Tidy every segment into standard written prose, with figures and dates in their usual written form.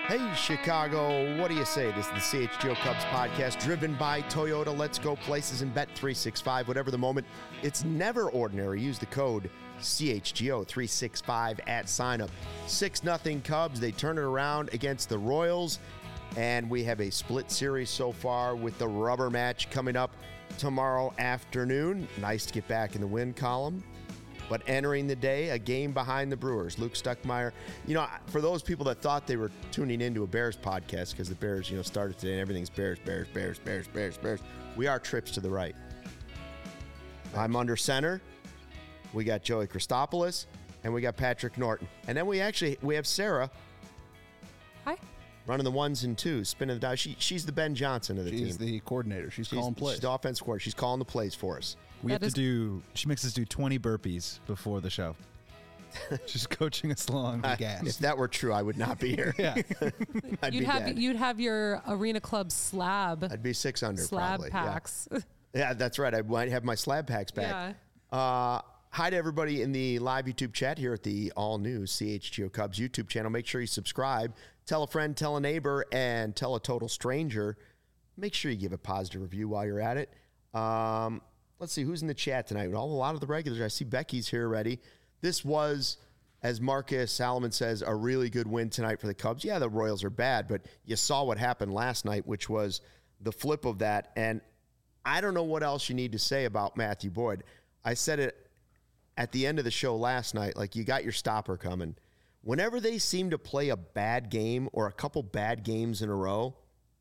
Hey, Chicago, what do you say? This is the CHGO Cubs podcast driven by Toyota. Let's go places and bet 365. Whatever the moment, it's never ordinary. Use the code CHGO365 at signup. 6-0 Cubs. They turn it around against the Royals. And we have a split series so far with the rubber match coming up tomorrow afternoon. Nice to get back in the win column. But entering the day, a game behind the Brewers. Luke Stuckmeyer. You know, for those people that thought they were tuning into a Bears podcast because the Bears, started today and everything's Bears. We are trips to the right. I'm under center. We got Joey Christopoulos and we got Patrick Norton. And then we have Sarah. Hi. Running the ones and twos, spinning the dial. She's the Ben Johnson of the team. She's the coordinator. She's calling plays. She's the offense coordinator. She's calling the plays for us. She makes us do 20 burpees before the show. She's coaching us along the gas. If that were true, I would not be here. Yeah. You'd have your Arena Club slab. I'd be 6 under slab probably. packs. Yeah, that's right. I might have my slab packs back. Yeah. Hi to everybody in the live YouTube chat here at the all-new CHGO Cubs YouTube channel. Make sure you subscribe. Tell a friend, tell a neighbor, and tell a total stranger. Make sure you give a positive review while you're at it. Let's see, who's in the chat tonight? A lot of the regulars. I see Becky's here already. This was, as Marcus Salomon says, a really good win tonight for the Cubs. Yeah, the Royals are bad, but you saw what happened last night, which was the flip of that. And I don't know what else you need to say about Matthew Boyd. I said it at the end of the show last night, like, you got your stopper coming. Whenever they seem to play a bad game or a couple bad games in a row,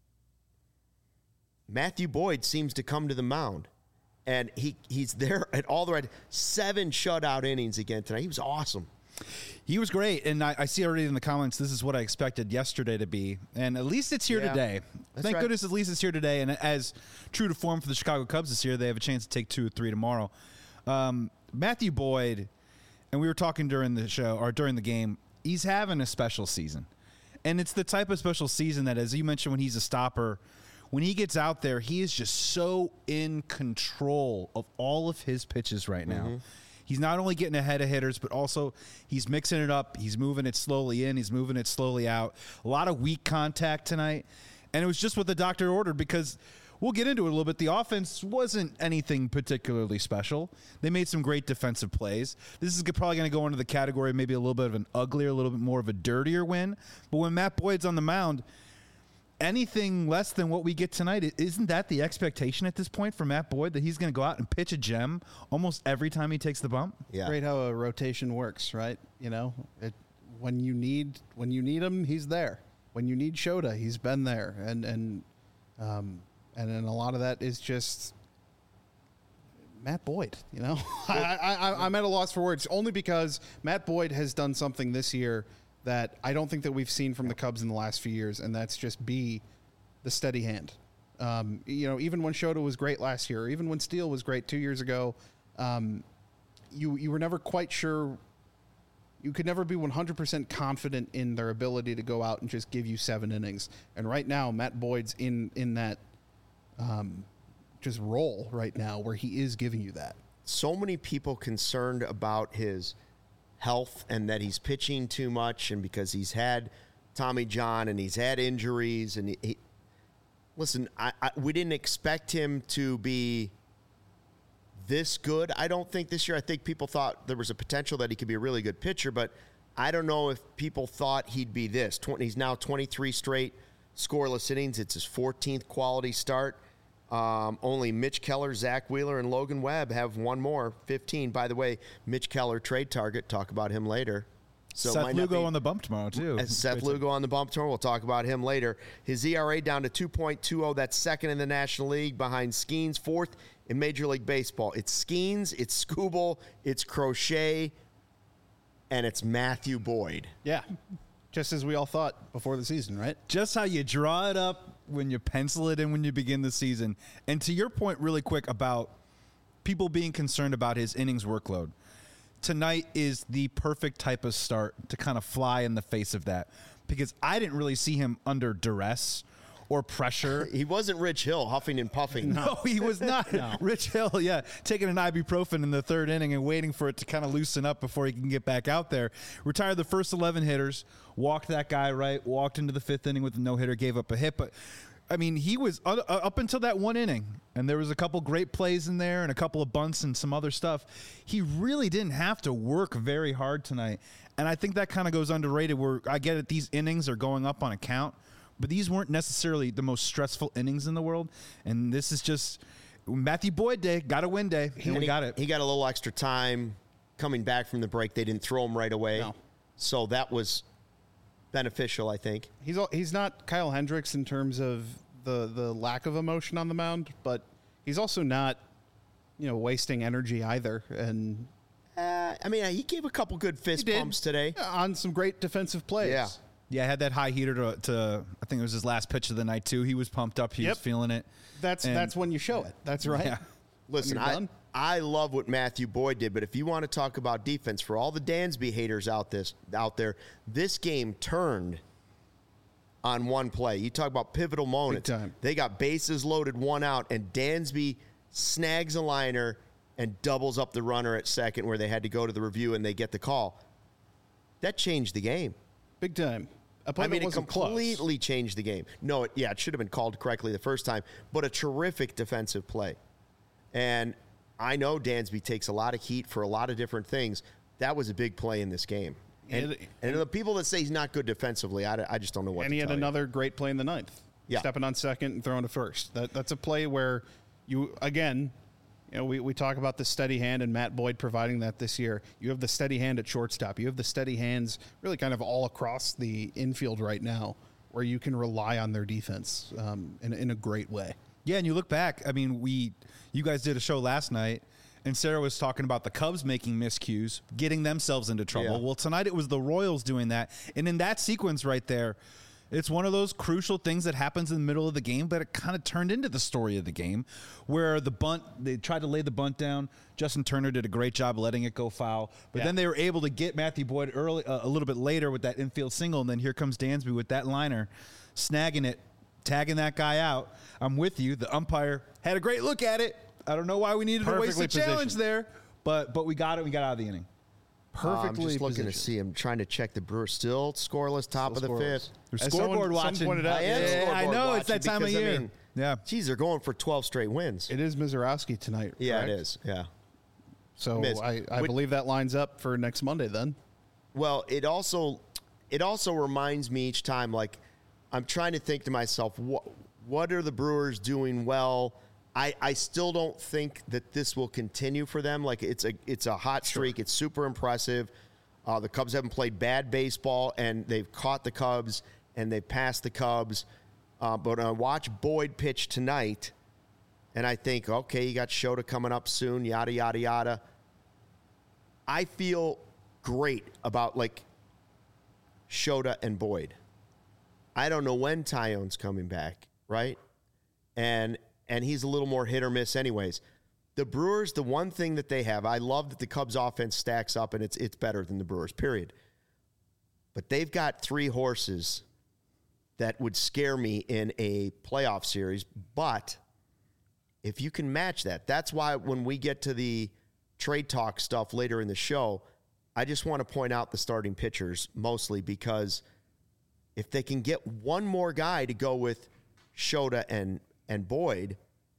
Matthew Boyd seems to come to the mound. And he's there at all the right. 7 shutout innings again tonight. He was awesome. He was great, and I see already in the comments, this is what I expected yesterday to be, and at least it's here today. Thank goodness at least it's here today, and as true to form for the Chicago Cubs this year, they have a chance to take 2 or 3 tomorrow. Matthew Boyd, and we were talking during the show, or during the game, he's having a special season. And it's the type of special season that, as you mentioned, when he's a stopper, when he gets out there, he is just so in control of all of his pitches right now. Mm-hmm. He's not only getting ahead of hitters, but also he's mixing it up. He's moving it slowly in. He's moving it slowly out. A lot of weak contact tonight. And it was just what the doctor ordered, because we'll get into it a little bit. The offense wasn't anything particularly special. They made some great defensive plays. This is probably going to go into the category of maybe a little bit of an uglier, a little bit more of a dirtier win. But when Matt Boyd's on the mound, anything less than what we get tonight, isn't that the expectation at this point for Matt Boyd, that he's going to go out and pitch a gem almost every time he takes the bump? Yeah. Great how a rotation works, right? When you need him, he's there. When you need Shota, he's been there, and then a lot of that is just Matt Boyd. I'm at a loss for words, only because Matt Boyd has done something this year that I don't think that we've seen from the Cubs in the last few years, and that's just be the steady hand. Even when Shota was great last year, or even when Steele was great 2 years ago, you were never quite sure. You could never be 100% confident in their ability to go out and just give you 7 innings. And right now, Matt Boyd's in that just role right now where he is giving you that. So many people concerned about his health and that he's pitching too much, and because he's had Tommy John and he's had injuries, and listen, we didn't expect him to be this good. I don't think this year. I think people thought there was a potential that he could be a really good pitcher, but I don't know if people thought he'd be this. He's now 23 straight scoreless innings. It's his 14th quality start. Only Mitch Keller, Zach Wheeler, and Logan Webb have one more, 15. By the way, Mitch Keller, trade target. Talk about him later. So Seth Lugo on the bump tomorrow, too. Seth Lugo on the bump tomorrow. We'll talk about him later. His ERA down to 2.20. That's second in the National League behind Skeens, fourth in Major League Baseball. It's Skeens, it's Skubal, it's Crochet, and it's Matthew Boyd. Yeah. Just as we all thought before the season, right? Just how you draw it up when you pencil it in when you begin the season. And to your point really quick about people being concerned about his innings workload, tonight is the perfect type of start to kind of fly in the face of that, because I didn't really see him under duress or pressure. He wasn't Rich Hill huffing and puffing. No, he was not. No. Rich Hill, taking an ibuprofen in the third inning and waiting for it to kind of loosen up before he can get back out there. Retired the first 11 hitters, walked that guy right, walked into the fifth inning with a no-hitter, gave up a hit. But, I mean, he was up until that one inning, and there was a couple great plays in there and a couple of bunts and some other stuff. He really didn't have to work very hard tonight. And I think that kind of goes underrated where I get it, these innings are going up on a count, but these weren't necessarily the most stressful innings in the world. And this is just Matthew Boyd day, got a win day, and we got it. He got a little extra time coming back from the break. They didn't throw him right away. No. So that was beneficial, I think. He's not Kyle Hendricks in terms of the lack of emotion on the mound, but he's also not, wasting energy either. And I mean, he gave a couple good fist bumps today on some great defensive plays. Yeah, had that high heater to I think it was his last pitch of the night too. He was pumped up. He was feeling it. That's when you show it. That's right. Yeah. Listen, I love what Matthew Boyd did, but if you want to talk about defense, for all the Dansby haters out there, this game turned on one play. You talk about pivotal moments. Big time. They got bases loaded, one out, and Dansby snags a liner and doubles up the runner at second where they had to go to the review and they get the call. That changed the game. Big time. It completely changed the game. No, it should have been called correctly the first time, but a terrific defensive play. And I know Dansby takes a lot of heat for a lot of different things. That was a big play in this game. And the people that say he's not good defensively, I just don't know what to tell you. And he had another great play in the ninth. Yeah. Stepping on second and throwing to first. That's a play where you, again, we talk about the steady hand and Matt Boyd providing that this year. You have the steady hand at shortstop. You have the steady hands really kind of all across the infield right now where you can rely on their defense in a great way. Yeah, and you look back, I mean, you guys did a show last night, and Sarah was talking about the Cubs making miscues, getting themselves into trouble. Yeah. Well, tonight it was the Royals doing that. And in that sequence right there, it's one of those crucial things that happens in the middle of the game, but it kind of turned into the story of the game where they tried to lay the bunt down. Justin Turner did a great job letting it go foul. But then they were able to get Matthew Boyd early, a little bit later with that infield single, and then here comes Dansby with that liner, snagging it, tagging that guy out. I'm with you. The umpire had a great look at it. I don't know why we needed to waste the challenge there, but we got it. We got out of the inning. I'm just looking to see him trying to check the Brewers. Still scoreless, top of the fifth. There's scoreboard watching. I know it's that time of year. Geez, they're going for 12 straight wins. It is Mizorowski tonight. Yeah, correct? it is. Yeah. So I believe that lines up for next Monday then. Well, it also reminds me each time, like, I'm trying to think to myself, what are the Brewers doing well? I still don't think that this will continue for them. Like, it's a hot streak. Sure. It's super impressive. The Cubs haven't played bad baseball, and they've caught the Cubs, and they've passed the Cubs. But I watch Boyd pitch tonight, and I think, okay, you got Shota coming up soon, yada, yada, yada. I feel great about, like, Shota and Boyd. I don't know when Tyone's coming back, right? And he's a little more hit or miss anyways. The Brewers, the one thing that they have, I love that the Cubs offense stacks up and it's better than the Brewers, period. But they've got three horses that would scare me in a playoff series. But if you can match that, that's why when we get to the trade talk stuff later in the show, I just want to point out the starting pitchers mostly because if they can get one more guy to go with Shota and Boyd,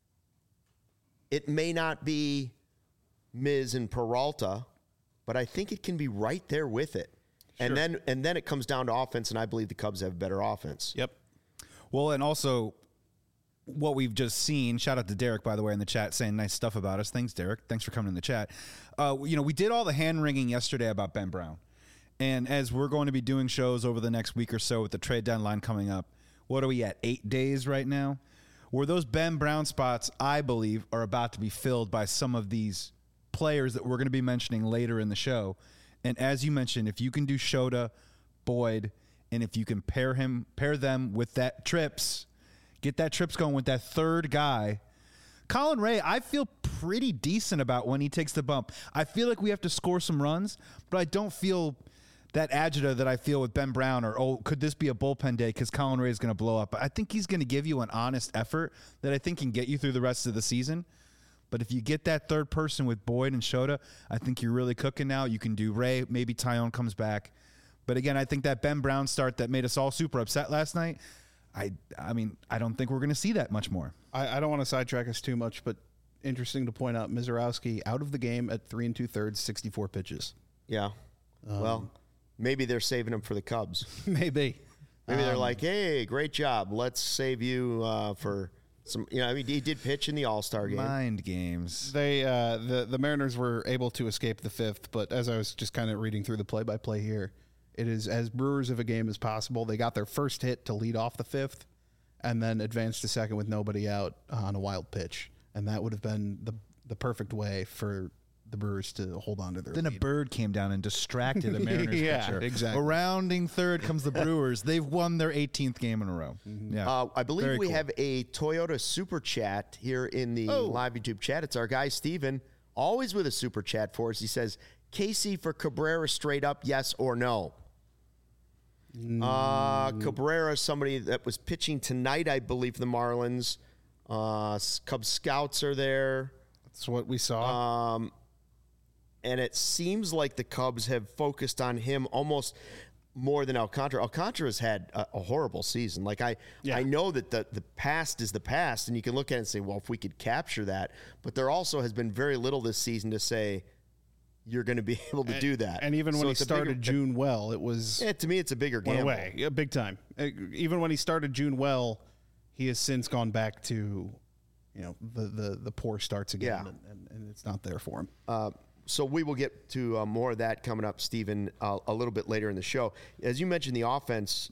it may not be Miz and Peralta, but I think it can be right there with it. Sure. And then it comes down to offense, and I believe the Cubs have better offense. Yep. Well, and also what we've just seen, shout out to Derek, by the way, in the chat saying nice stuff about us. Thanks, Derek. Thanks for coming in the chat. We did all the hand-wringing yesterday about Ben Brown. And as we're going to be doing shows over the next week or so with the trade deadline coming up, what are we at, 8 days right now? Where those Ben Brown spots, I believe, are about to be filled by some of these players that we're going to be mentioning later in the show. And as you mentioned, if you can do Shota, Boyd, and if you can pair them with that Trips, get that Trips going with that third guy. Colin Ray, I feel pretty decent about when he takes the bump. I feel like we have to score some runs, but I don't feel that agita that I feel with Ben Brown, or could this be a bullpen day because Colin Ray is going to blow up? I think he's going to give you an honest effort that I think can get you through the rest of the season. But if you get that third person with Boyd and Shota, I think you're really cooking now. You can do Ray. Maybe Tyone comes back. But again, I think that Ben Brown start that made us all super upset last night, I mean, I don't think we're going to see that much more. I don't want to sidetrack us too much, but interesting to point out, Mizorowski out of the game at 3 2/3, 64 pitches. Yeah. Well, maybe they're saving him for the Cubs. Maybe they're like, hey, great job. Let's save you for some. I mean, he did pitch in the All-Star game. Mind games. They the Mariners were able to escape the fifth, but as I was just kind of reading through the play-by-play here, it is as Brewers of a game as possible. They got their first hit to lead off the fifth, and then advanced to second with nobody out on a wild pitch, and that would have been the perfect way for the Brewers to hold on to their lead. A bird came down and distracted a Mariners pitcher. Exactly. Rounding third comes the Brewers. They've won their 18th game in a row. Mm-hmm. Yeah, I believe we have a Toyota Super Chat here in the live YouTube chat. It's our guy, Steven, always with a Super Chat for us. He says, Casey for Cabrera straight up, yes or no? Cabrera, somebody that was pitching tonight, I believe, for the Marlins. Cubs scouts are there. That's what we saw. And it seems like the Cubs have focused on him almost more than Alcantara. Alcantara's had a horrible season. Like I know that the past is the past, and you can look at it and say, well, if we could capture that. But there also has been very little this season to say you're going to be able to do that. And even when he started June well, it was... Yeah, to me, it's a bigger gamble. Yeah, big time. Even when he started June well, he has since gone back to, the poor starts again, and it's not there for him. So we will get to more of that coming up, Stephen, a little bit later in the show. As you mentioned, the offense,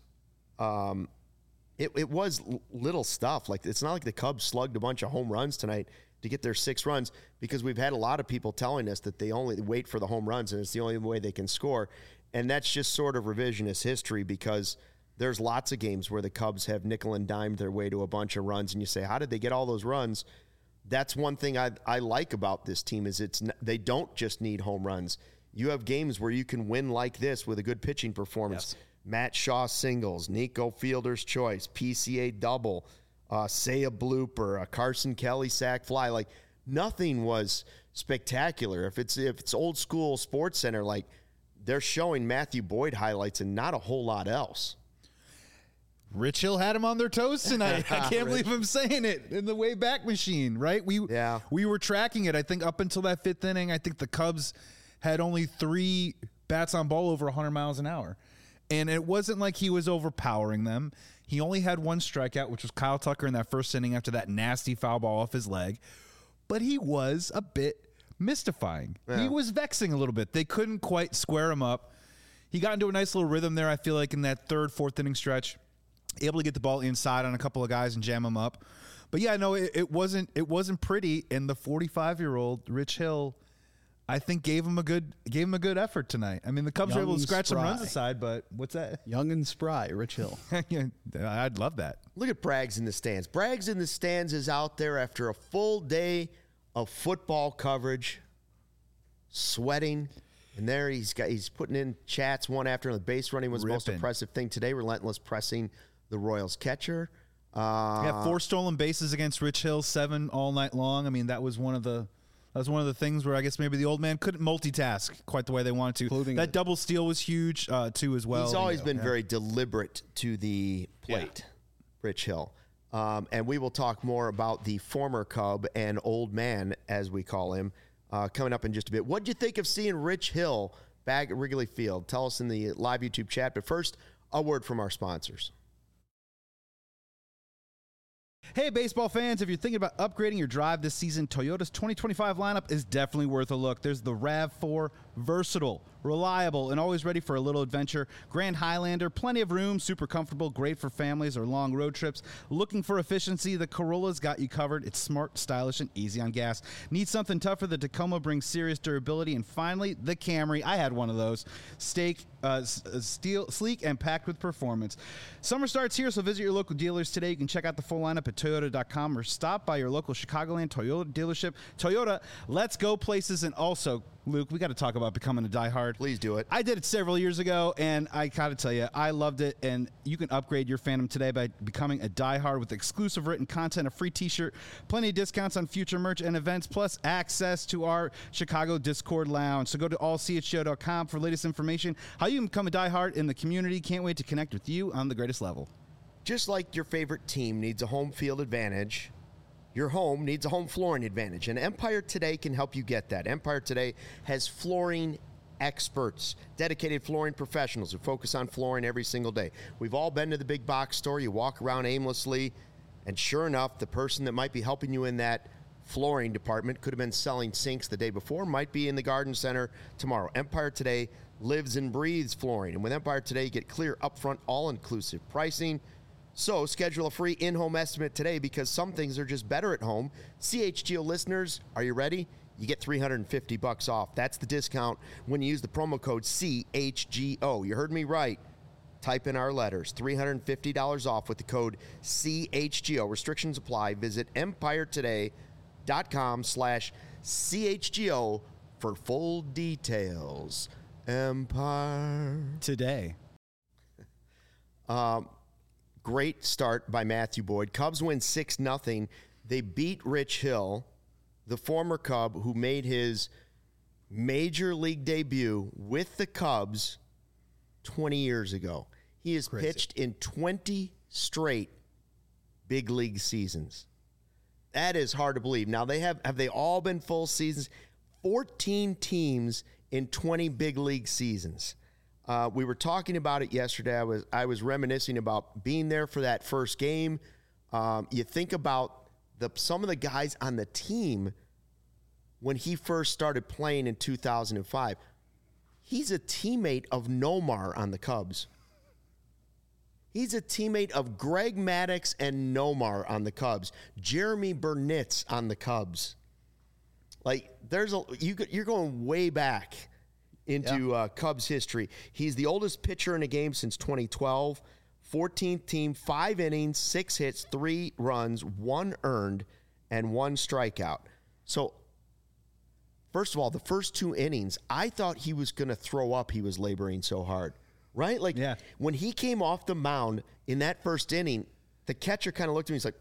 it was little stuff. Like, it's not like the Cubs slugged a bunch of home runs tonight to get their 6 runs, because we've had a lot of people telling us that they only wait for the home runs and it's the only way they can score. And that's just sort of revisionist history, because there's lots of games where the Cubs have nickel and dimed their way to a bunch of runs, and you say, how did they get all those runs? That's one thing I like about this team is they don't just need home runs. You have games where you can win like this with a good pitching performance. Yes. Matt Shaw singles, Nico Fielder's choice, PCA double, say a blooper, a Carson Kelly sac fly. Like, nothing was spectacular. If it's old school Sports Center, like, they're showing Matthew Boyd highlights and not a whole lot else. Rich Hill had him on their toes tonight. I can't believe I'm saying it. In the way back machine, right? We were tracking it. I think up until that 5th inning, I think the Cubs had only 3 bats on ball over 100 miles an hour. And it wasn't like he was overpowering them. He only had 1 strikeout, which was Kyle Tucker in that first inning after that nasty foul ball off his leg. But he was a bit mystifying. Yeah. He was vexing a little bit. They couldn't quite square him up. He got into a nice little rhythm there, I feel like, in that 3rd, 4th inning stretch. Able to get the ball inside on a couple of guys and jam them up. But yeah, no, it wasn't pretty. And the 45-year-old Rich Hill, I think gave him a good effort tonight. I mean, the Cubs were able to scratch some runs aside, but what's that? Young and spry, Rich Hill. I'd love that. Look at Braggs in the stands. Braggs in the stands is out there after a full day of football coverage, sweating. And there he's putting in chats one after another. Base running was the most impressive thing today. Relentless pressing the Royals catcher. 4 stolen bases against Rich Hill, 7 all night long. I mean, that was one of the things where I guess maybe the old man couldn't multitask quite the way they wanted to. That double steal was huge too as well. He's always been very deliberate to the plate, Rich Hill. And we will talk more about the former Cub and old man, as we call him, coming up in just a bit. What'd you think of seeing Rich Hill back at Wrigley Field? Tell us in the live YouTube chat. But first, a word from our sponsors. Hey, baseball fans, if you're thinking about upgrading your drive this season, Toyota's 2025 lineup is definitely worth a look. There's the RAV4, versatile, reliable, and always ready for a little adventure. Grand Highlander, plenty of room, super comfortable, great for families or long road trips. Looking for efficiency, the Corolla's got you covered. It's smart, stylish, and easy on gas. Need something tougher? The Tacoma brings serious durability. And finally, the Camry. I had one of those. Sleek and packed with performance. Summer starts here, so visit your local dealers today. You can check out the full lineup at Toyota.com or stop by your local Chicagoland Toyota dealership. Toyota, let's go places. And also, Luke, we got to talk about becoming a diehard. Please do it. I did it several years ago, and I got to tell you, I loved it. And you can upgrade your fandom today by becoming a diehard with exclusive written content, a free T-shirt, plenty of discounts on future merch and events, plus access to our Chicago Discord lounge. So go to allchgo.com for latest information. How you can become a diehard in the community. Can't wait to connect with you on the greatest level. Just like your favorite team needs a home field advantage, your home needs a home flooring advantage, and Empire Today can help you get that. Empire Today has flooring experts, dedicated flooring professionals who focus on flooring every single day. We've all been to the big box store. You walk around aimlessly, and sure enough, the person that might be helping you in that flooring department could have been selling sinks the day before, might be in the garden center tomorrow. Empire Today lives and breathes flooring, and with Empire Today, you get clear, upfront, all-inclusive pricing. So schedule a free in-home estimate today because some things are just better at home. CHGO listeners, are you ready? You get $350 off. That's the discount when you use the promo code CHGO. You heard me right. Type in our letters. $350 off with the code CHGO. Restrictions apply. Visit empiretoday.com/CHGO for full details. Empire Today. Great start by Matthew Boyd. Cubs win 6-0. They beat Rich Hill, the former Cub who made his major league debut with the Cubs 20 years ago. He has pitched in 20 straight big league seasons. That is hard to believe. Now, have they all been full seasons? 14 teams in 20 big league seasons. We were talking about it yesterday. I was reminiscing about being there for that first game. You think about some of the guys on the team when he first started playing in 2005. He's a teammate of Nomar on the Cubs. He's a teammate of Greg Maddux and Nomar on the Cubs. Jeremy Burnitz on the Cubs. Like you're going way back into Cubs history. He's the oldest pitcher in a game since 2012. 14th team, 5 innings, 6 hits, 3 runs, 1 earned, and 1 strikeout. So, first of all, the first 2 innings, I thought he was going to throw up. He was laboring so hard, right? Like, when he came off the mound in that first inning, the catcher kind of looked at me. He's like,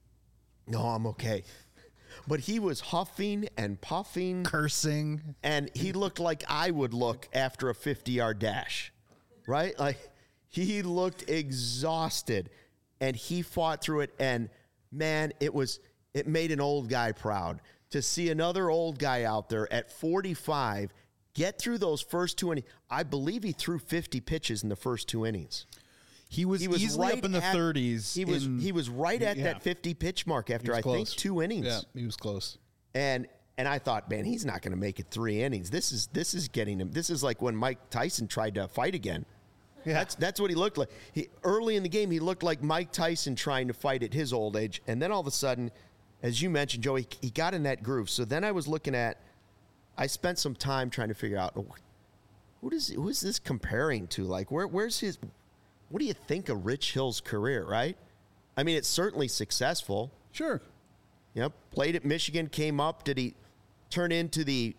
no, I'm okay. But he was huffing and puffing. Cursing. And he looked like I would look after a 50-yard dash, right? Like, he looked exhausted, and he fought through it. And, man, it made an old guy proud to see another old guy out there at 45 get through those first 2 innings. I believe he threw 50 pitches in the first 2 innings. He was easily right up in the 30s. He was right at that 50 pitch mark after I think 2 innings. Yeah, he was close. And I thought, man, he's not going to make it 3 innings. This is getting him. This is like when Mike Tyson tried to fight again. Yeah. That's what he looked like. Early in the game, he looked like Mike Tyson trying to fight at his old age. And then all of a sudden, as you mentioned, Joey, he got in that groove. So then I was looking at, I spent some time trying to figure out, who is this comparing to? Like, where's his... What do you think of Rich Hill's career, right? I mean, it's certainly successful. Sure. Yep. Played at Michigan, came up. Did he turn into the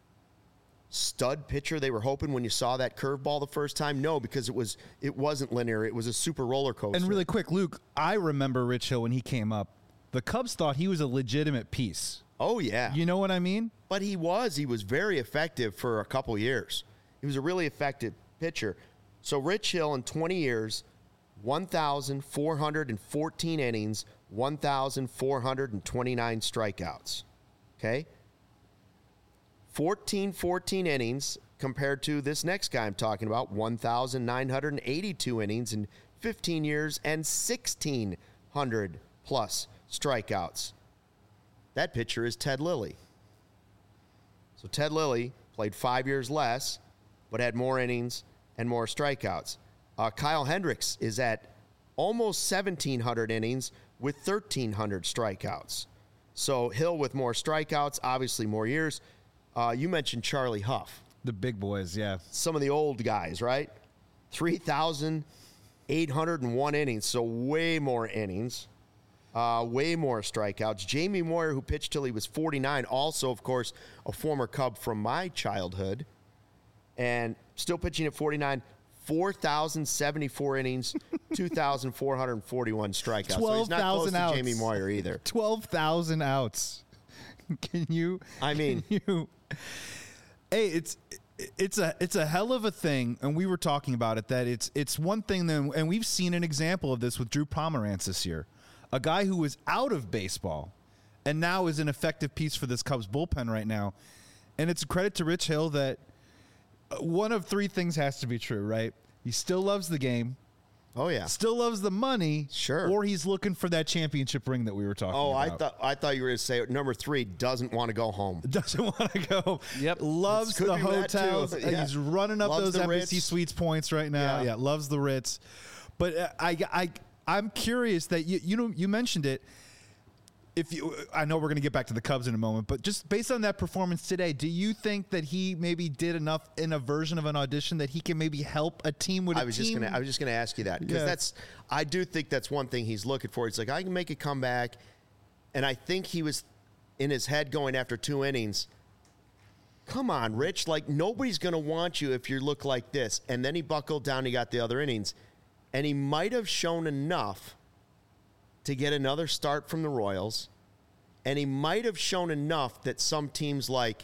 stud pitcher they were hoping when you saw that curveball the first time? No, because it wasn't linear. It was a super roller coaster. And really quick, Luke, I remember Rich Hill when he came up. The Cubs thought he was a legitimate piece. Oh, yeah. You know what I mean? But he was very effective for a couple years. He was a really effective pitcher. So Rich Hill in 20 years, 1,414 innings, 1,429 strikeouts. Okay? 14 innings compared to this next guy I'm talking about, 1,982 innings in 15 years and 1,600 plus strikeouts. That pitcher is Ted Lilly. So Ted Lilly played 5 years less, but had more innings and more strikeouts. Kyle Hendricks is at almost 1,700 innings with 1,300 strikeouts. So Hill with more strikeouts, obviously more years. You mentioned Charlie Huff. The big boys, yeah. Some of the old guys, right? 3,801 innings, so way more innings. Way more strikeouts. Jamie Moyer, who pitched till he was 49, also, of course, a former Cub from my childhood, and still pitching at 49, 4,074 innings, 2,441 strikeouts. 12,000 so he's not close outs. to Jamie Moyer either. 12,000 outs. Can you? I mean, hey, it's a hell of a thing, and we were talking about it, that it's one thing that, and we've seen an example of this with Drew Pomeranz this year, a guy who was out of baseball and now is an effective piece for this Cubs bullpen right now. And it's a credit to Rich Hill that one of three things has to be true, right? He still loves the game. Oh yeah, still loves the money. Sure. Or he's looking for that championship ring that we were talking about. I thought you were going to say number 3, doesn't want to go home. Doesn't want to go. Yep. Loves the hotels. Yeah. He's running up Loves those the Embassy Ritz. Suites points right now. Yeah, loves the Ritz. But I'm curious that you mentioned it. I know we're going to get back to the Cubs in a moment, but just based on that performance today, do you think that he maybe did enough in a version of an audition that he can maybe help a team with I was just going to ask you that, because I do think that's one thing he's looking for. It's like, I can make a comeback, and I think he was in his head going after 2 innings. Come on, Rich, like nobody's going to want you if you look like this. And then he buckled down, he got the other innings, and he might have shown enough to get another start from the Royals, and he might have shown enough that some teams like,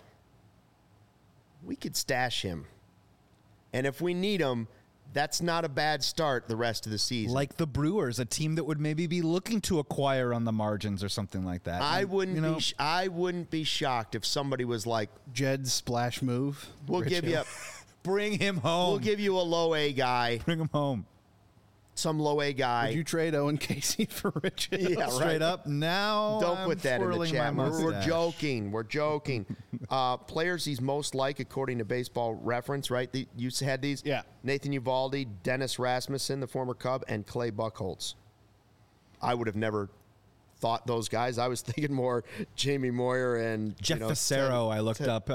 we could stash him. And if we need him, that's not a bad start the rest of the season. Like the Brewers, a team that would maybe be looking to acquire on the margins or something like that. I wouldn't be shocked if somebody was like, Jed's splash move. We'll give you bring him home. We'll give you a low A guy. Bring him home. Some low A guy. Would you trade Owen Casey for Rich Hill? Yeah, straight up. Now don't put that in the chat. We're joking. We're joking. Players he's most like, according to Baseball Reference, right? You had these? Yeah. Nathan Eovaldi, Dennis Rasmussen, the former Cub, and Clay Buchholz. I would have never thought those guys. I was thinking more Jamie Moyer and Jeff Fassero. I looked up.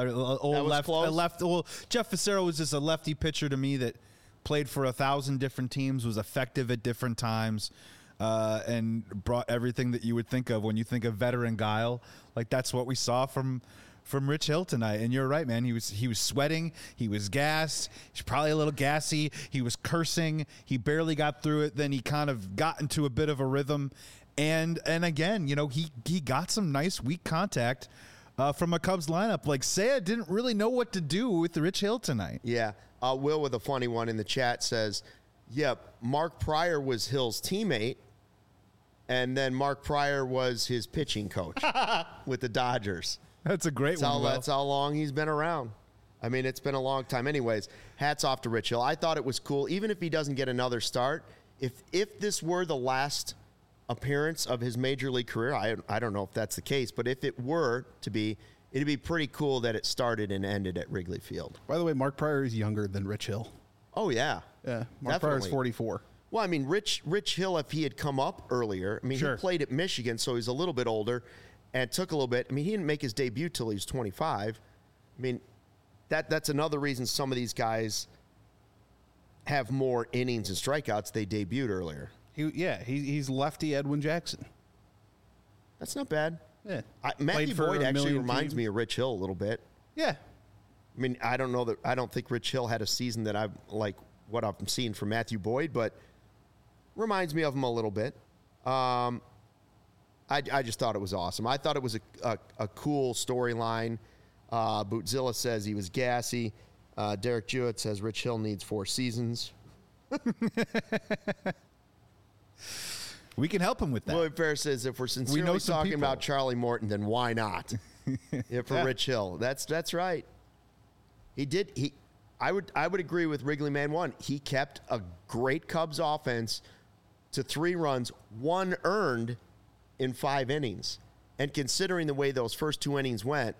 Jeff Fassero was just a lefty pitcher to me that played for 1,000 different teams, was effective at different times, and brought everything that you would think of when you think of veteran guile. Like that's what we saw from Rich Hill tonight. And you're right, man. He was sweating. He was gassed. He's probably a little gassy. He was cursing. He barely got through it. Then he kind of got into a bit of a rhythm. And again, he got some nice weak contact from a Cubs lineup. Like Seiya didn't really know what to do with Rich Hill tonight. Yeah. Will with a funny one in the chat says, Mark Pryor was Hill's teammate, and then Mark Pryor was his pitching coach with the Dodgers. That's a great one. That's how long he's been around. I mean, it's been a long time. Anyways, hats off to Rich Hill. I thought it was cool, even if he doesn't get another start. If this were the last appearance of his major league career, I don't know if that's the case, but if it were to be, it'd be pretty cool that it started and ended at Wrigley Field. By the way, Mark Pryor is younger than Rich Hill. Oh, yeah. Yeah, Mark Pryor is 44. Well, I mean, Rich Hill, if he had come up earlier, he played at Michigan, so he's a little bit older and took a little bit. I mean, he didn't make his debut till he was 25. I mean, that's another reason some of these guys have more innings and strikeouts. They debuted earlier. He's lefty Edwin Jackson. That's not bad. Yeah. Matthew Boyd actually reminds me of Rich Hill a little bit. Yeah. I mean, I don't think Rich Hill had a season that I like what I'm seeing from Matthew Boyd, but reminds me of him a little bit. I just thought it was awesome. I thought it was a cool storyline. Bootzilla says he was gassy. Derek Jewett says Rich Hill needs 4 seasons. We can help him with that. William Fair says if we're sincerely talking about Charlie Morton, then why not? For Rich Hill. That's right. I would agree with Wrigley Man 1. He kept a great Cubs offense to 3 runs, 1 earned in 5 innings. And considering the way those first 2 innings went,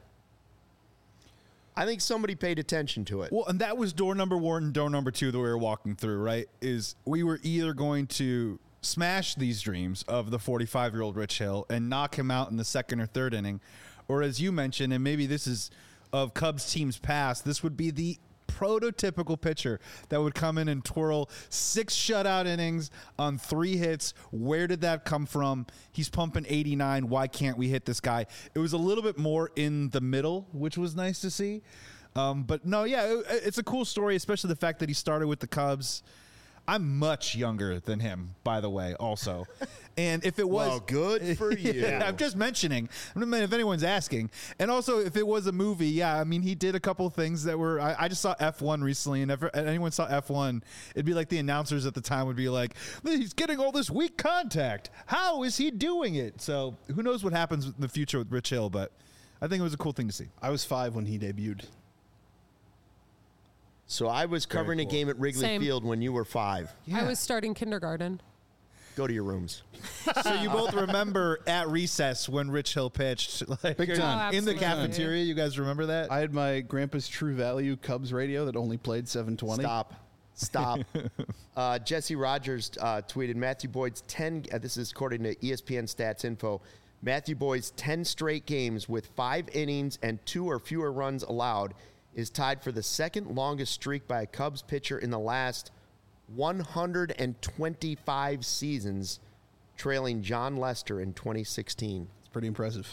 I think somebody paid attention to it. Well, and that was door number 1 and door number 2 that we were walking through, right? Is we were either going to smash these dreams of the 45-year-old Rich Hill and knock him out in the 2nd or 3rd inning, or as you mentioned, and maybe this is of Cubs teams past, this would be the prototypical pitcher that would come in and twirl 6 shutout innings on 3 hits. Where did that come from? He's pumping 89. Why can't we hit this guy? It was a little bit more in the middle, which was nice to see. But no, yeah, it's a cool story, especially the fact that he started with the Cubs. I'm much younger than him, by the way, also. And if it was... Well, good for you. I'm just mentioning. I don't know if anyone's asking. And also, if it was a movie, yeah, I mean, he did a couple of things that were... I just saw F1 recently, and if anyone saw F1, it'd be like the announcers at the time would be like, he's getting all this weak contact. How is he doing it? So who knows what happens in the future with Rich Hill, but I think it was a cool thing to see. I was 5 when he debuted. So I was covering a game at Wrigley Field when you were 5. Yeah. I was starting kindergarten. Go to your rooms. So you both remember at recess when Rich Hill pitched, like, big time, in the cafeteria. You guys remember that? I had my grandpa's True Value Cubs radio that only played 720. Stop. Jesse Rogers tweeted Matthew Boyd's 10. This is according to ESPN Stats Info. Matthew Boyd's 10 straight games with 5 innings and 2 or fewer runs allowed is tied for the second longest streak by a Cubs pitcher in the last 125 seasons, trailing John Lester in 2016. It's pretty impressive.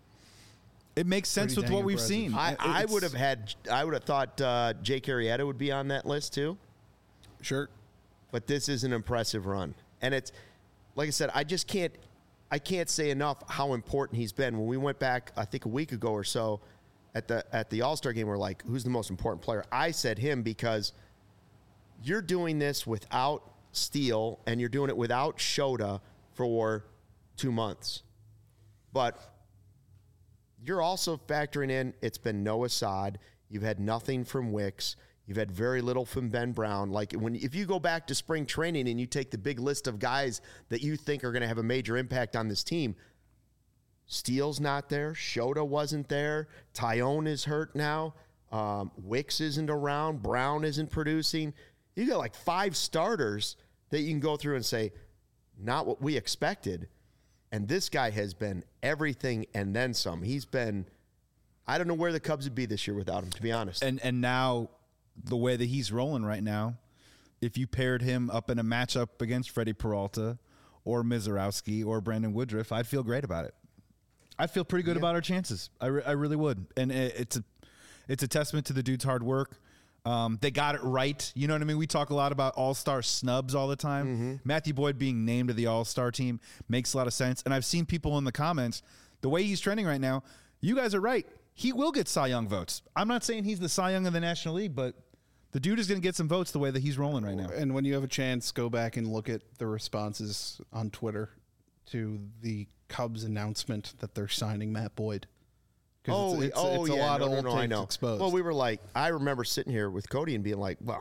It makes sense with what we've seen. I would have thought Jake Arrieta would be on that list too. Sure. But this is an impressive run. And it's, like I said, I can't say enough how important he's been. When we went back, I think a week ago or so, at the All-Star game, we're like, who's the most important player? I said him because you're doing this without Steele and you're doing it without Shota for 2 months. But you're also factoring in it's been Noah Saad. You've had nothing from Wicks. You've had very little from Ben Brown. Like if you go back to spring training and you take the big list of guys that you think are going to have a major impact on this team, Steele's not there. Shota wasn't there. Tyone is hurt now. Wicks isn't around. Brown isn't producing. You got like 5 starters that you can go through and say, not what we expected. And this guy has been everything and then some. He's been, I don't know where the Cubs would be this year without him, to be honest. And now the way that he's rolling right now, if you paired him up in a matchup against Freddie Peralta or Mizorowski or Brandon Woodruff, I'd feel great about it. I feel pretty good about our chances. I really would. And it's a testament to the dude's hard work. They got it right. You know what I mean? We talk a lot about all-star snubs all the time. Mm-hmm. Matthew Boyd being named to the all-star team makes a lot of sense. And I've seen people in the comments, the way he's trending right now, you guys are right. He will get Cy Young votes. I'm not saying he's the Cy Young of the National League, but the dude is going to get some votes the way that he's rolling right now. And when you have a chance, go back and look at the responses on Twitter to the Cubs announcement that they're signing Matt Boyd. It's a lot of old takes exposed. Well, we were like, I remember sitting here with Cody and being like, well,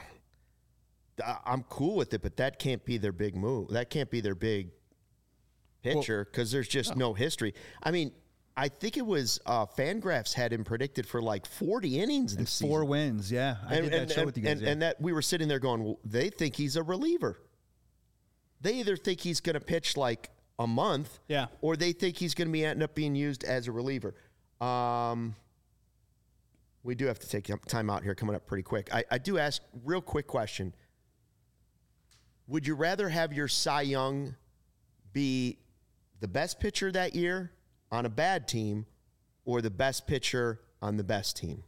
I'm cool with it, but that can't be their big move. That can't be their big pitcher because there's just no history. I mean, I think it was Fangraphs had him predicted for like 40 innings this season. 4 wins, yeah. I did that show with you guys. And that we were sitting there going, well, they think he's a reliever. They either think he's going to pitch like a month, or they think he's going to end up being used as a reliever. We do have to take time out here coming up pretty quick. I do ask real quick question. Would you rather have your Cy Young be the best pitcher that year on a bad team or the best pitcher on the best team?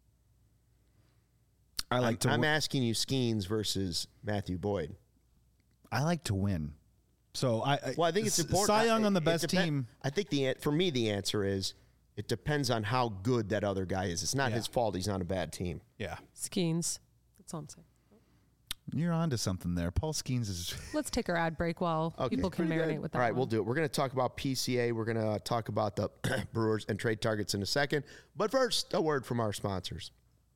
I'm asking you Skeens versus Matthew Boyd. I like to win. So I think it's important. Cy Young on the best team. I think for me the answer is it depends on how good that other guy is. It's not his fault he's on a bad team. Yeah. Skeens. That's all I'm saying. You're on to something there. Paul Skeens is... Let's take our ad break while people can marinate with that. All right, we'll do it. We're going to talk about PCA. We're going to talk about the Brewers and trade targets in a second. But first, a word from our sponsors.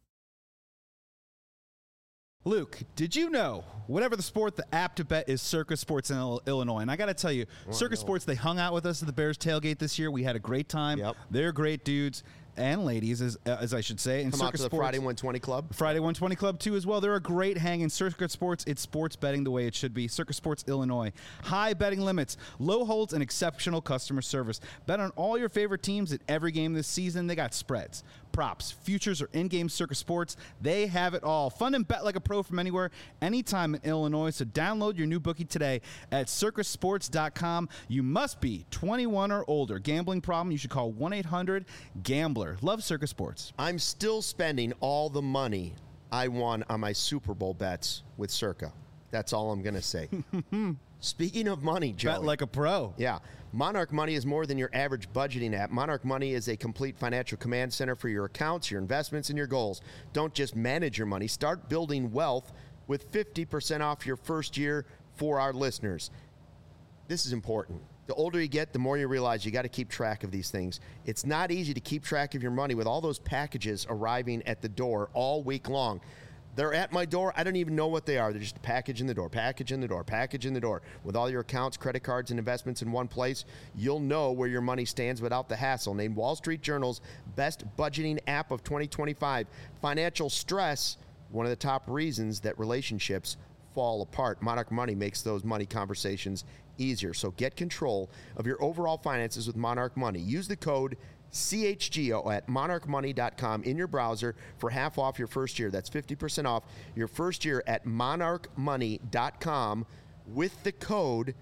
Luke, did you know, whatever the sport, the app to bet is Circa Sports in Illinois? And I got to tell you, Circa Sports, they hung out with us at the Bears tailgate this year. We had a great time. Yep. They're great dudes and ladies, as I should say. And Come Circa out to Sports, the Friday 120 Club. Friday 120 Club, too, as well. They're a great hang. In Circa Sports, it's sports betting the way it should be. Circa Sports Illinois. High betting limits, low holds, and exceptional customer service. Bet on all your favorite teams at every game this season. They got spreads, props, futures, or in-game Circa Sports, they have it all. Fun and bet like a pro from anywhere, anytime in Illinois. So download your new bookie today at circasports.com. You must be 21 or older. Gambling problem? You should call 1-800-GAMBLER. Love Circa Sports. I'm still spending all the money I won on my Super Bowl bets with Circa. That's all I'm going to say. Speaking of money, Joey. Bet like a pro. Yeah. Monarch Money is more than your average budgeting app. Monarch Money is a complete financial command center for your accounts, your investments, and your goals. Don't just manage your money. Start building wealth with 50% off your first year for our listeners. This is important. The older you get, the more you realize you got to keep track of these things. It's not easy to keep track of your money with all those packages arriving at the door all week long. They're at my door. I don't even know what they are. They're just a package in the door, package in the door, package in the door. With all your accounts, credit cards, and investments in one place, you'll know where your money stands without the hassle. Named Wall Street Journal's best budgeting app of 2025. Financial stress, one of the top reasons that relationships fall apart. Monarch Money makes those money conversations easier. So get control of your overall finances with Monarch Money. Use the code CHGO at monarchmoney.com in your browser for half off your first year. That's 50% off your first year at monarchmoney.com with the code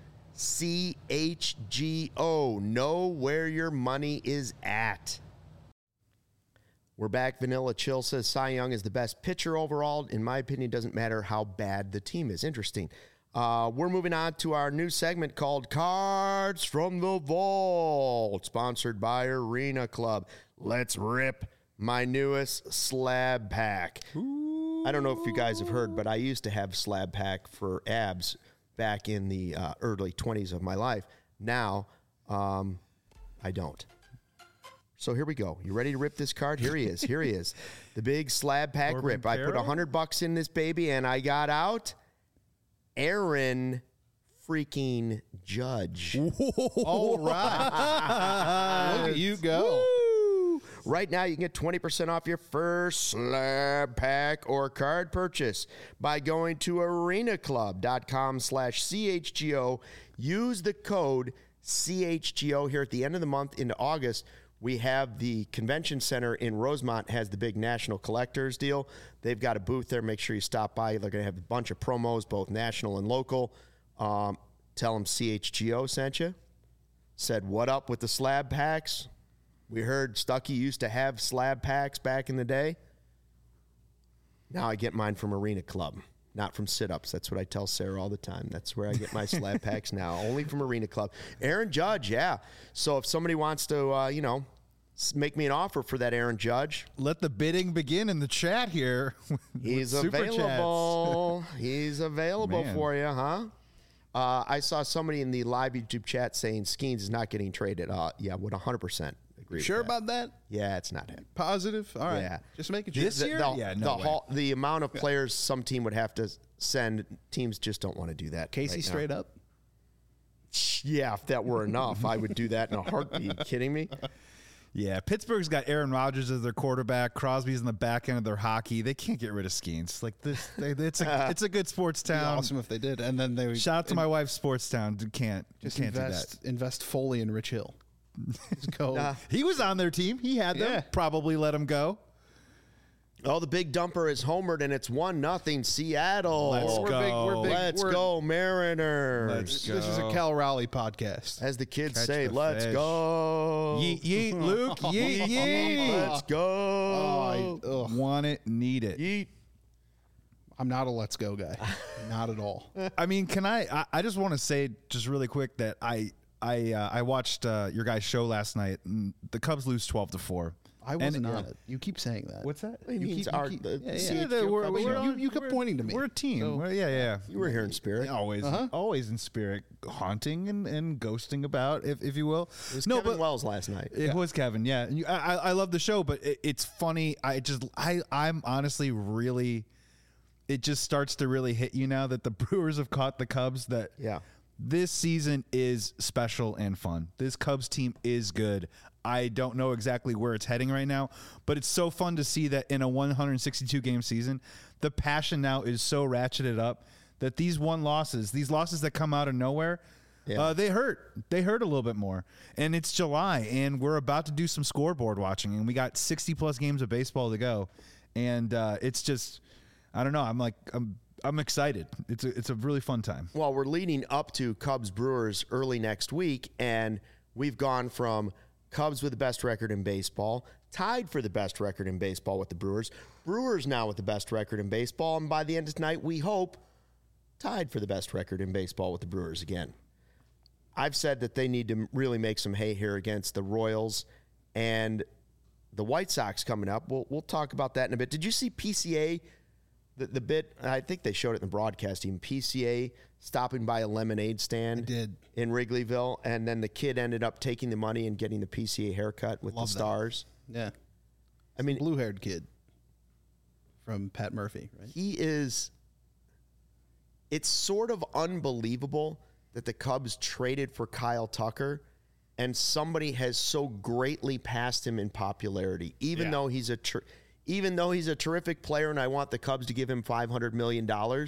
CHGO. Know where your money is at. We're back. Vanilla Chill says Cy Young is the best pitcher overall. In my opinion, it doesn't matter how bad the team is. Interesting. We're moving on to our new segment called Cards from the Vault, sponsored by Arena Club. Let's rip my newest slab pack. Ooh. I don't know if you guys have heard, but I used to have slab pack for abs back in the early 20s of my life. Now, I don't. So here we go. You ready to rip this card? Here he is. Here he is. The big slab pack Corbin rip. Carroll? I put $100 in this baby, and I got out Aaron freaking Judge. All right. Look at you go. Woo! Right now, you can get 20% off your first slab pack or card purchase by going to arenaclub.com/CHGO. Use the code CHGO here at the end of the month into August. We have the convention center in Rosemont has the big national collectors deal. They've got a booth there. Make sure you stop by. They're going to have a bunch of promos, both national and local. Tell them CHGO sent you. Said, what up with the slab packs? We heard Stuckey used to have slab packs back in the day. Now I get mine from Arena Club, not from sit-ups. That's what I tell Sarah all the time. That's where I get my slab packs now, only from Arena Club. Aaron Judge, yeah. So if somebody wants to, make me an offer for that Aaron Judge. Let the bidding begin in the chat here. He's available. He's available for you, huh? I saw somebody in the live YouTube chat saying Skeens is not getting traded. Yeah, would 100% agree. Sure with that. about that? Yeah, it's not him. Positive? All right. Yeah. Just making sure. This year? Yeah, no way. The amount of players some team would have to send, teams just don't want to do that. Casey right straight now. up? Yeah, if that were enough, I would do that in a heartbeat. You kidding me? Yeah, Pittsburgh's got Aaron Rodgers as their quarterback. Crosby's in the back end of their hockey. They can't get rid of Skeens. Like this, it's a good sports It'd be town. awesome if they did. And then they would Shout out to my wife's sports town. Can't just do that. invest fully in Rich Hill. Just go. He was on their team. He had them. Yeah. Probably let him go. Oh, the big dumper is homered, and it's 1-0 Seattle. Let's go. Let's go, Mariners. Let's go. This is a Cal Raleigh podcast. As the kids Catch say, the let's fish. go. Yeet, yeet, Luke. Yeet, yeet. Let's go. Want it, need it. Yeet. I'm not a let's go guy. Not at all. I mean, can I just want to say just really quick that I watched your guys' show last night, and the Cubs lose 12-4. I wasn't on it. You keep saying that. What's that? He means keep- our, you keep- the yeah, CHGO Cubs show. You kept pointing to me. We're a team. So- Yeah. You were here in spirit. Always, always in spirit, haunting and ghosting about, if you will. It was Kevin Wells last night. It was Kevin, yeah. And I love the show, but it's funny. I'm honestly really. It just starts to really hit you now that the Brewers have caught the Cubs. That this season is special and fun. This Cubs team is good. I don't know exactly where it's heading right now, but it's so fun to see that in a 162-game season, the passion now is so ratcheted up that these losses that come out of nowhere, Yeah. They hurt a little bit more. And it's July, and we're about to do some scoreboard watching, and we got 60-plus games of baseball to go. And it's just, I don't know. I'm excited. It's a really fun time. Well, we're leading up to Cubs-Brewers early next week, and we've gone from Cubs with the best record in baseball, tied for the best record in baseball with the Brewers, Brewers now with the best record in baseball, and by the end of tonight, we hope, tied for the best record in baseball with the Brewers again. I've said that they need to really make some hay here against the Royals and the White Sox coming up. We'll talk about that in a bit. Did you see PCA, the bit, I think they showed it in the broadcast team, PCA stopping by a lemonade stand in Wrigleyville, and then the kid ended up taking the money and getting the PCA haircut with the stars. Yeah. I mean, blue-haired kid from Pat Murphy, right? He is, it's sort of unbelievable that the Cubs traded for Kyle Tucker and somebody has so greatly passed him in popularity, even though he's a terrific player and I want the Cubs to give him $500 million.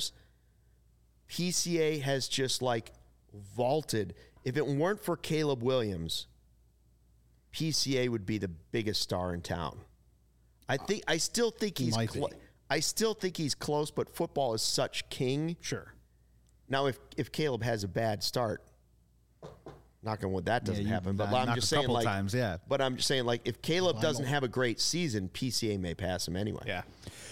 PCA has just like vaulted. If it weren't for Caleb Williams, PCA would be the biggest star in town. I still think he's close, but football is such king. Sure. Now, if Caleb has a bad start, knock on wood, that doesn't happen. But I'm just saying, like, times, But I'm just saying, like, if Caleb doesn't have a great season, PCA may pass him anyway. Yeah.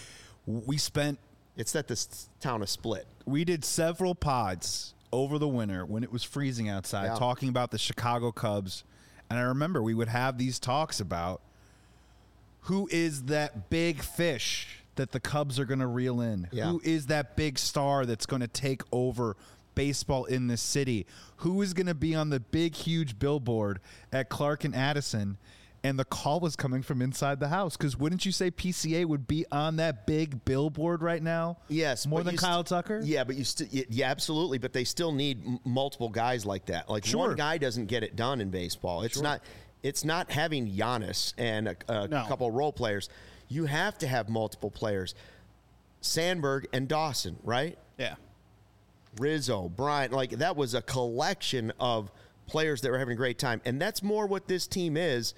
It's that this town is split. We did several pods over the winter when it was freezing outside, talking about the Chicago Cubs. And I remember we would have these talks about who is that big fish that the Cubs are going to reel in? Yeah. Who is that big star that's going to take over baseball in this city? Who is going to be on the big, huge billboard at Clark and Addison? And the call was coming from inside the house. Because wouldn't you say PCA would be on that big billboard right now? Yes. More than Kyle Tucker? Yeah, but absolutely. But they still need multiple guys like that. Like one guy doesn't get it done in baseball. It's not having Giannis and a couple of role players. You have to have multiple players. Sandberg and Dawson, right? Yeah. Rizzo, Bryant, like that was a collection of players that were having a great time. And that's more what this team is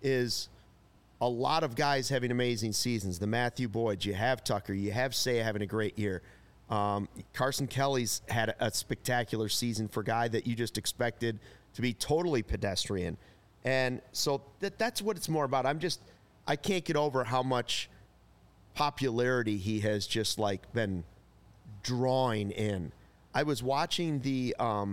a lot of guys having amazing seasons. The Matthew Boyds, you have Tucker, you have Seiya having a great year. Carson Kelly's had a spectacular season for a guy that you just expected to be totally pedestrian. And so that's what it's more about. I can't get over how much popularity he has just like been drawing in. I was watching the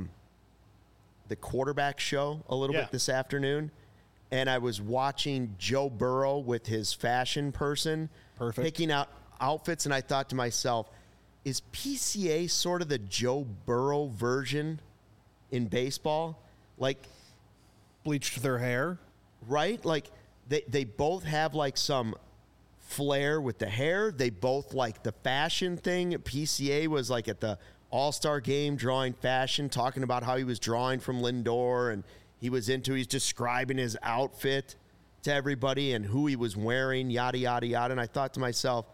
quarterback show a little bit this afternoon, and I was watching Joe Burrow with his fashion person picking out outfits, and I thought to myself, is PCA sort of the Joe Burrow version in baseball? Like, bleached their hair, right? Like they both have like some flair with the hair. They both like the fashion thing. PCA was like at the All-Star game drawing fashion, talking about how he was drawing from Lindor and he's describing his outfit to everybody and who he was wearing, yada, yada, yada. And I thought to myself,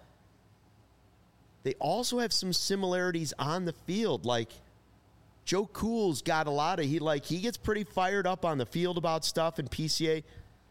they also have some similarities on the field. Like Joe Cool's got a lot of, he gets pretty fired up on the field about stuff, and PCA,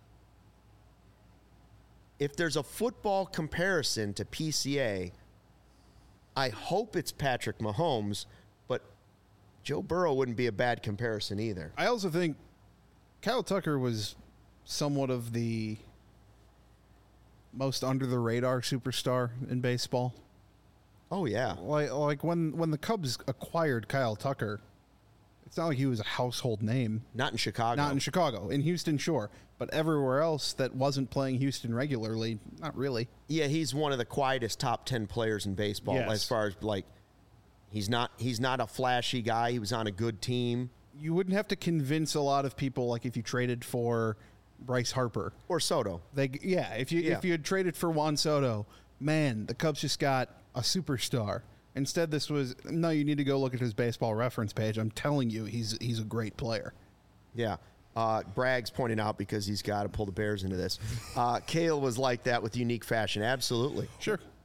if there's a football comparison to PCA, I hope it's Patrick Mahomes, but Joe Burrow wouldn't be a bad comparison either. I also think Kyle Tucker was somewhat of the most under-the-radar superstar in baseball. Oh, yeah. Like when the Cubs acquired Kyle Tucker, it's not like he was a household name. Not in Chicago. In Houston, sure. But everywhere else that wasn't playing Houston regularly, not really. Yeah, he's one of the quietest top 10 players in baseball. Yes. As far as, like, he's not a flashy guy. He was on a good team. You wouldn't have to convince a lot of people, like if you traded for Bryce Harper. Or Soto. If you had traded for Juan Soto, man, the Cubs just got a superstar. Instead, this was, no, you need to go look at his baseball reference page. I'm telling you, he's a great player. Yeah. Bragg's pointing out, because he's got to pull the Bears into this. Cale was like that with unique fashion. Absolutely. Sure.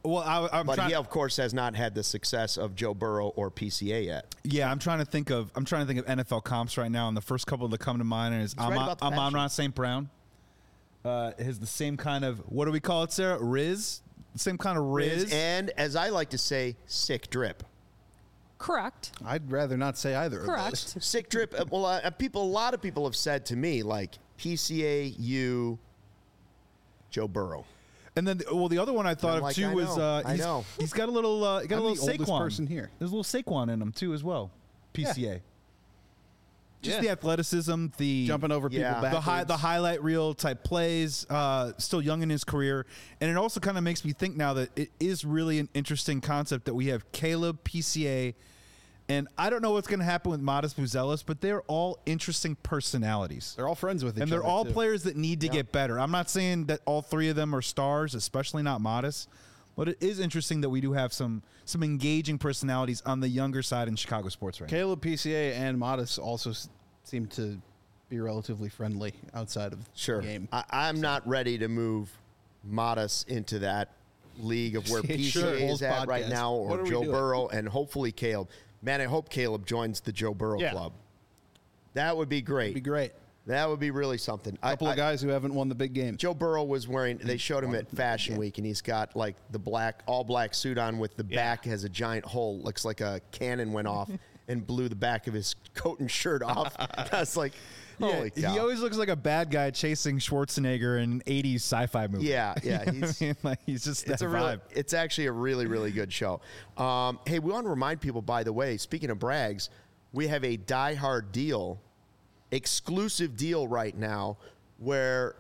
Well, but he, of course, has not had the success of Joe Burrow or PCA yet. Yeah, I'm trying to think of NFL comps right now, and the first couple that come to mind is Amon-Ra St. Brown. Has the same kind of, what do we call it, Sarah? Riz? The same kind of Riz. And, as I like to say, sick drip. Correct. I'd rather not say either of those. Sick drip. Well, a lot of people have said to me, like, PCA, you, Joe Burrow. And then, the other one I thought of too was he's got a little Saquon person here. There's a little Saquon in him too as well. PCA. Yeah. Just the athleticism, the jumping over people backwards. the highlight reel type plays, still young in his career. And it also kind of makes me think now that it is really an interesting concept that we have Caleb, PCA, and I don't know what's going to happen with Modest Buzelis, but they're all interesting personalities. They're all friends with each other. And they're all players that need to get better. I'm not saying that all three of them are stars, especially not Modest. But it is interesting that we do have some engaging personalities on the younger side in Chicago sports right now. Caleb, PCA, and Modest also seem to be relatively friendly outside of the game. I'm not ready to move Modest into that league of where PCA is at right now, or Joe Burrow, and hopefully Caleb. Man, I hope Caleb joins the Joe Burrow club. That would be great. That would be really something. A couple of guys who haven't won the big game. Joe Burrow was wearing, they showed him at Fashion Week, and he's got like the all black suit on with the back has a giant hole. Looks like a cannon went off and blew the back of his coat and shirt off. That's like, holy cow. He always looks like a bad guy chasing Schwarzenegger in an 80s sci-fi movie. Yeah. He's just that vibe. It's actually a really, really good show. Hey, we want to remind people, by the way, speaking of Brags, we have a Die Hard deal, exclusive deal right now, where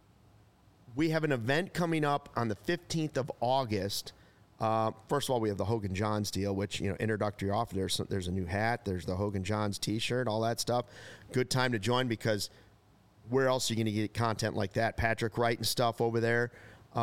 we have an event coming up on the 15th of August. First of all, we have the Hogan Johns deal, which, introductory offer. There's a new hat. There's the Hogan Johns T-shirt, all that stuff. Good time to join, because where else are you going to get content like that? Patrick Wright and stuff over there.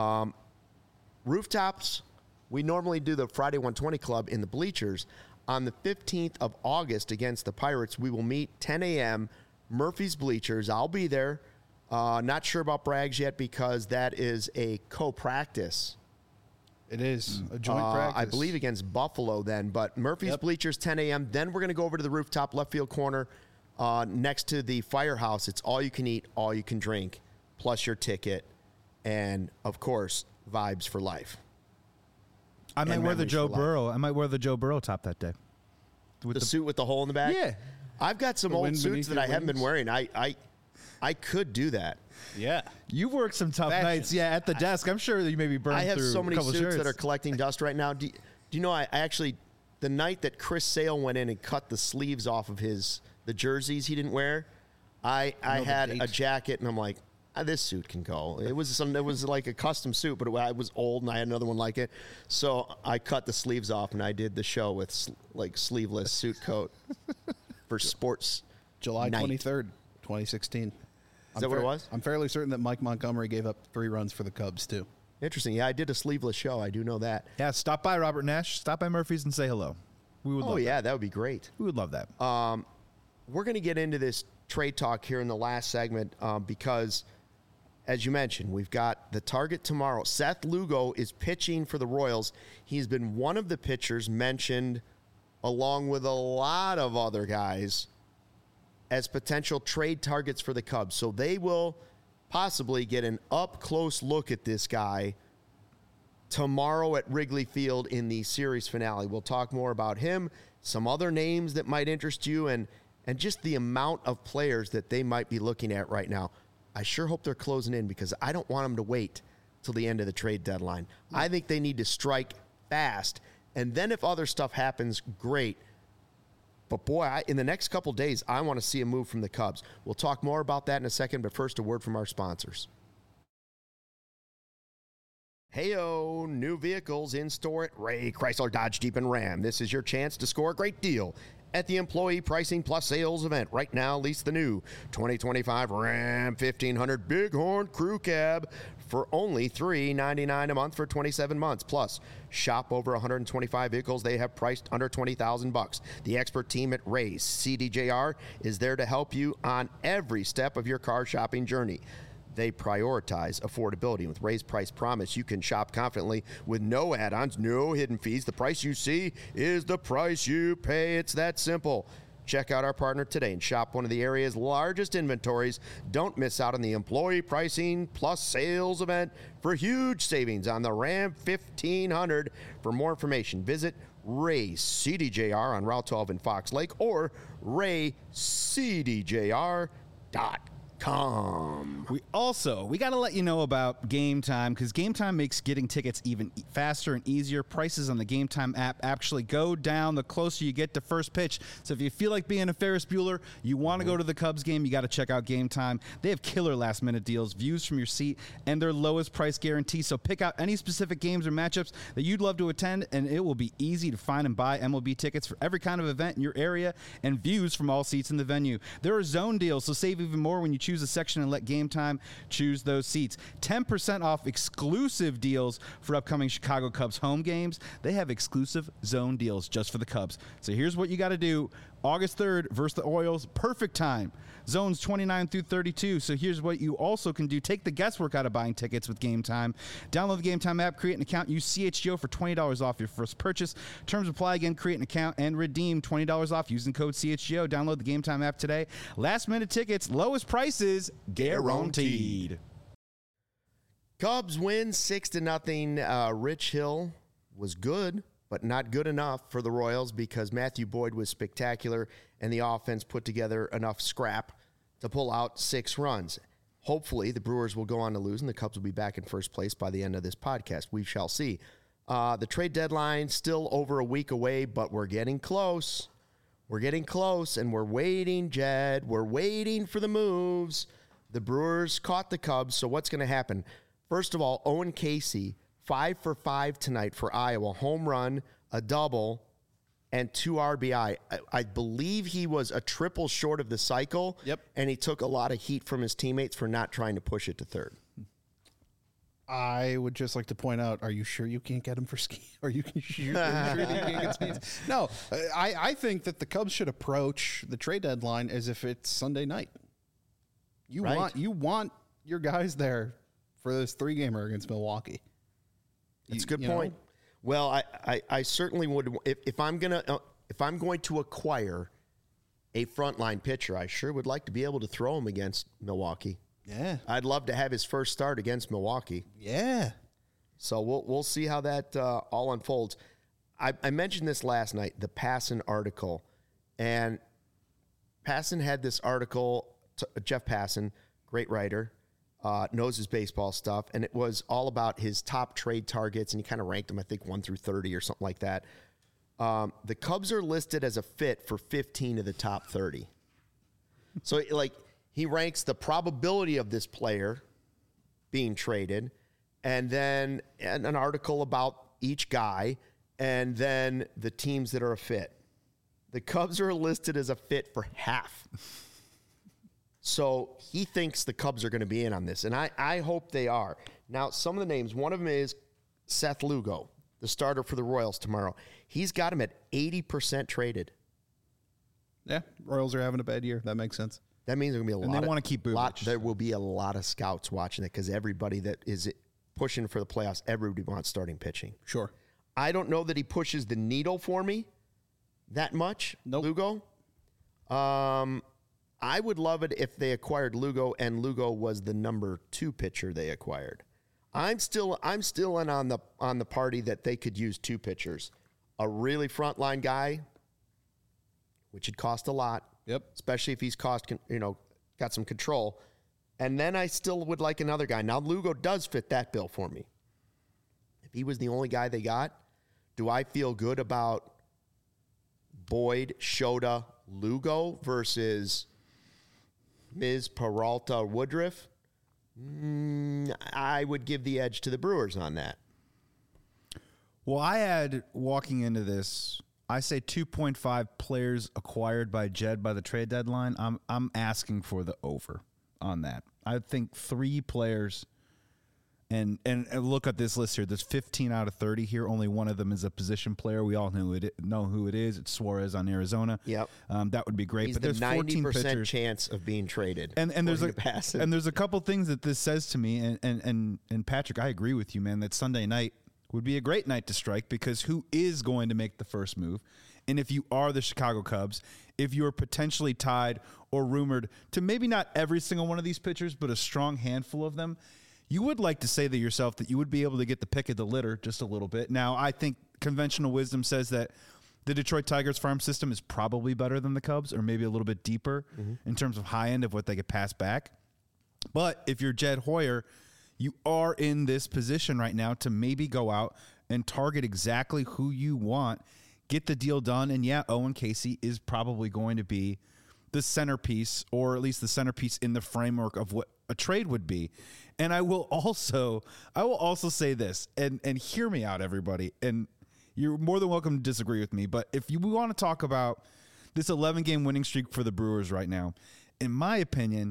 Rooftops, we normally do the Friday 120 Club in the bleachers. On the 15th of August against the Pirates, we will meet 10 a.m., Murphy's Bleachers. I'll be there. Not sure about Brags yet, because that is a co-practice. It is a joint practice. I believe against Buffalo then, but Murphy's Bleachers, 10 a.m. Then we're going to go over to the Rooftop left field corner next to the Firehouse. It's all you can eat, all you can drink, plus your ticket, and, of course, vibes for life. I might wear the Joe Burrow top that day. With the suit with the hole in the back? Yeah. I've got some old suits that I haven't been wearing. I could do that. Yeah. You've worked some tough nights, at the desk. I'm sure that you maybe burned through a couple I have so many suits shirts that are collecting dust right now. Do you know, I actually, the night that Chris Sale went in and cut the sleeves off of the jerseys he didn't wear, I had a jacket, and I'm like, this suit can go. It was like a custom suit, but it was old, and I had another one like it. So I cut the sleeves off, and I did the show with sleeveless suit coat for sports. July 23rd, 2016. Is that what it was? I'm fairly certain that Mike Montgomery gave up 3 runs for the Cubs, too. Interesting. Yeah, I did a sleeveless show. I do know that. Yeah, stop by Robert Nash. Stop by Murphy's and say hello. We would love that. That would be great. We would love that. We're going to get into this trade talk here in the last segment because, as you mentioned, we've got the target tomorrow. Seth Lugo is pitching for the Royals. He's been one of the pitchers mentioned, along with a lot of other guys, as potential trade targets for the Cubs. So they will possibly get an up-close look at this guy tomorrow at Wrigley Field in the series finale. We'll talk more about him, some other names that might interest you, and just the amount of players that they might be looking at right now. I sure hope they're closing in, because I don't want them to wait till the end of the trade deadline. I think they need to strike fast, and then if other stuff happens, great. But, boy, in the next couple days, I want to see a move from the Cubs. We'll talk more about that in a second, but first, a word from our sponsors. Hey-o, new vehicles in store at Ray Chrysler Dodge Jeep and Ram. This is your chance to score a great deal at the Employee Pricing Plus Sales event. Right now, lease the new 2025 Ram 1500 Bighorn Crew Cab for only $399 a month for 27 months. Plus, shop over 125 vehicles they have priced under $20,000. The expert team at Ray's CDJR is there to help you on every step of your car shopping journey. They prioritize affordability. With Ray's Price Promise, you can shop confidently with no add-ons, no hidden fees. The price you see is the price you pay. It's that simple. Check out our partner today and shop one of the area's largest inventories. Don't miss out on the employee pricing plus sales event for huge savings on the Ram 1500. For more information, visit Ray CDJR on Route 12 in Fox Lake or raycdjr.com. We got to let you know about Game Time, because Game Time makes getting tickets even faster and easier. Prices on the Game Time app actually go down the closer you get to first pitch. So if you feel like being a Ferris Bueller, you want to go to the Cubs game, you got to check out Game Time. They have killer last-minute deals, views from your seat, and their lowest price guarantee. So pick out any specific games or matchups that you'd love to attend, and it will be easy to find and buy MLB tickets for every kind of event in your area and views from all seats in the venue. There are zone deals, so save even more when you choose a section and let Game Time choose those seats. 10% off exclusive deals for upcoming Chicago Cubs home games. They have exclusive zone deals just for the Cubs. So here's what you got to do. August 3rd versus the Orioles, perfect time. Zones 29 through 32. So here's what you also can do. Take the guesswork out of buying tickets with Game Time. Download the Game Time app, create an account, use CHGO for $20 off your first purchase. Terms apply. Again, create an account and redeem $20 off using code CHGO. Download the Game Time app today. Last minute tickets, lowest prices guaranteed. Cubs win 6-0. Rich Hill was good, but not good enough for the Royals because Matthew Boyd was spectacular and the offense put together enough scrap to pull out 6 runs. Hopefully, the Brewers will go on to lose and the Cubs will be back in first place by the end of this podcast. We shall see. The trade deadline still over a week away, but we're getting close. We're getting close, and we're waiting, Jed. We're waiting for the moves. The Brewers caught the Cubs, so what's going to happen? First of all, Owen Casey, 5 for 5 tonight for Iowa. Home run, a double, and 2 RBI. I believe he was a triple short of the cycle. Yep. And he took a lot of heat from his teammates for not trying to push it to third. I would just like to point out, are you sure you can't get him for ski? Are you sure that you can't get skis? No, I think that the Cubs should approach the trade deadline as if it's Sunday night. You want your guys there for this 3-gamer against Milwaukee. That's a good point. Know? Well, I certainly would. If I'm going to acquire a frontline pitcher, I sure would like to be able to throw him against Milwaukee. Yeah, I'd love to have his first start against Milwaukee. Yeah. So we'll see how that all unfolds. I mentioned this last night, the Passan article, and Passan had this article. Jeff Passan, great writer, knows his baseball stuff, and it was all about his top trade targets, and he kind of ranked them, I think, 1 through 30 or something like that. The Cubs are listed as a fit for 15 of the top 30. So, he ranks the probability of this player being traded, and then an article about each guy, and then the teams that are a fit. The Cubs are listed as a fit for half. So he thinks the Cubs are going to be in on this, and I hope they are. Now, some of the names, one of them is Seth Lugo, the starter for the Royals tomorrow. He's got him at 80% traded. Yeah, Royals are having a bad year. That makes sense. That means there's going to be a lot. They want to keep Bubic. There will be a lot of scouts watching it because everybody that is pushing for the playoffs, everybody wants starting pitching. Sure. I don't know that he pushes the needle for me that much, nope. Lugo. I would love it if they acquired Lugo and Lugo was the number 2 pitcher they acquired. I'm still in on the party that they could use 2 pitchers. A really frontline guy, which would cost a lot. Yep. Especially if he's got some control. And then I still would like another guy. Now Lugo does fit that bill for me. If he was the only guy they got, do I feel good about Boyd, Shota, Lugo versus Ms. Peralta, Woodruff? I would give the edge to the Brewers on that. Well, I had, walking into this, I say 2.5 players acquired by Jed by the trade deadline. I'm asking for the over on that. I think 3 players And look at this list here. There's 15 out of 30 here. Only one of them is a position player. We all know who it is. It's Suarez on Arizona. Yep. That would be great. He's but there's the 14 90% chance of being traded. And there's a couple things that this says to me. And Patrick, I agree with you, man. That Sunday night would be a great night to strike, because who is going to make the first move? And if you are the Chicago Cubs, if you're potentially tied or rumored to maybe not every single one of these pitchers, but a strong handful of them, you would like to say to yourself that you would be able to get the pick of the litter just a little bit. Now, I think conventional wisdom says that the Detroit Tigers farm system is probably better than the Cubs, or maybe a little bit deeper in terms of high end of what they could pass back. But if you're Jed Hoyer, you are in this position right now to maybe go out and target exactly who you want, get the deal done. And yeah, Owen Casey is probably going to be the centerpiece, or at least the centerpiece in the framework of what a trade would be. And I will also say this, and hear me out, everybody. And you're more than welcome to disagree with me. But if we want to talk about this 11-game winning streak for the Brewers right now, in my opinion,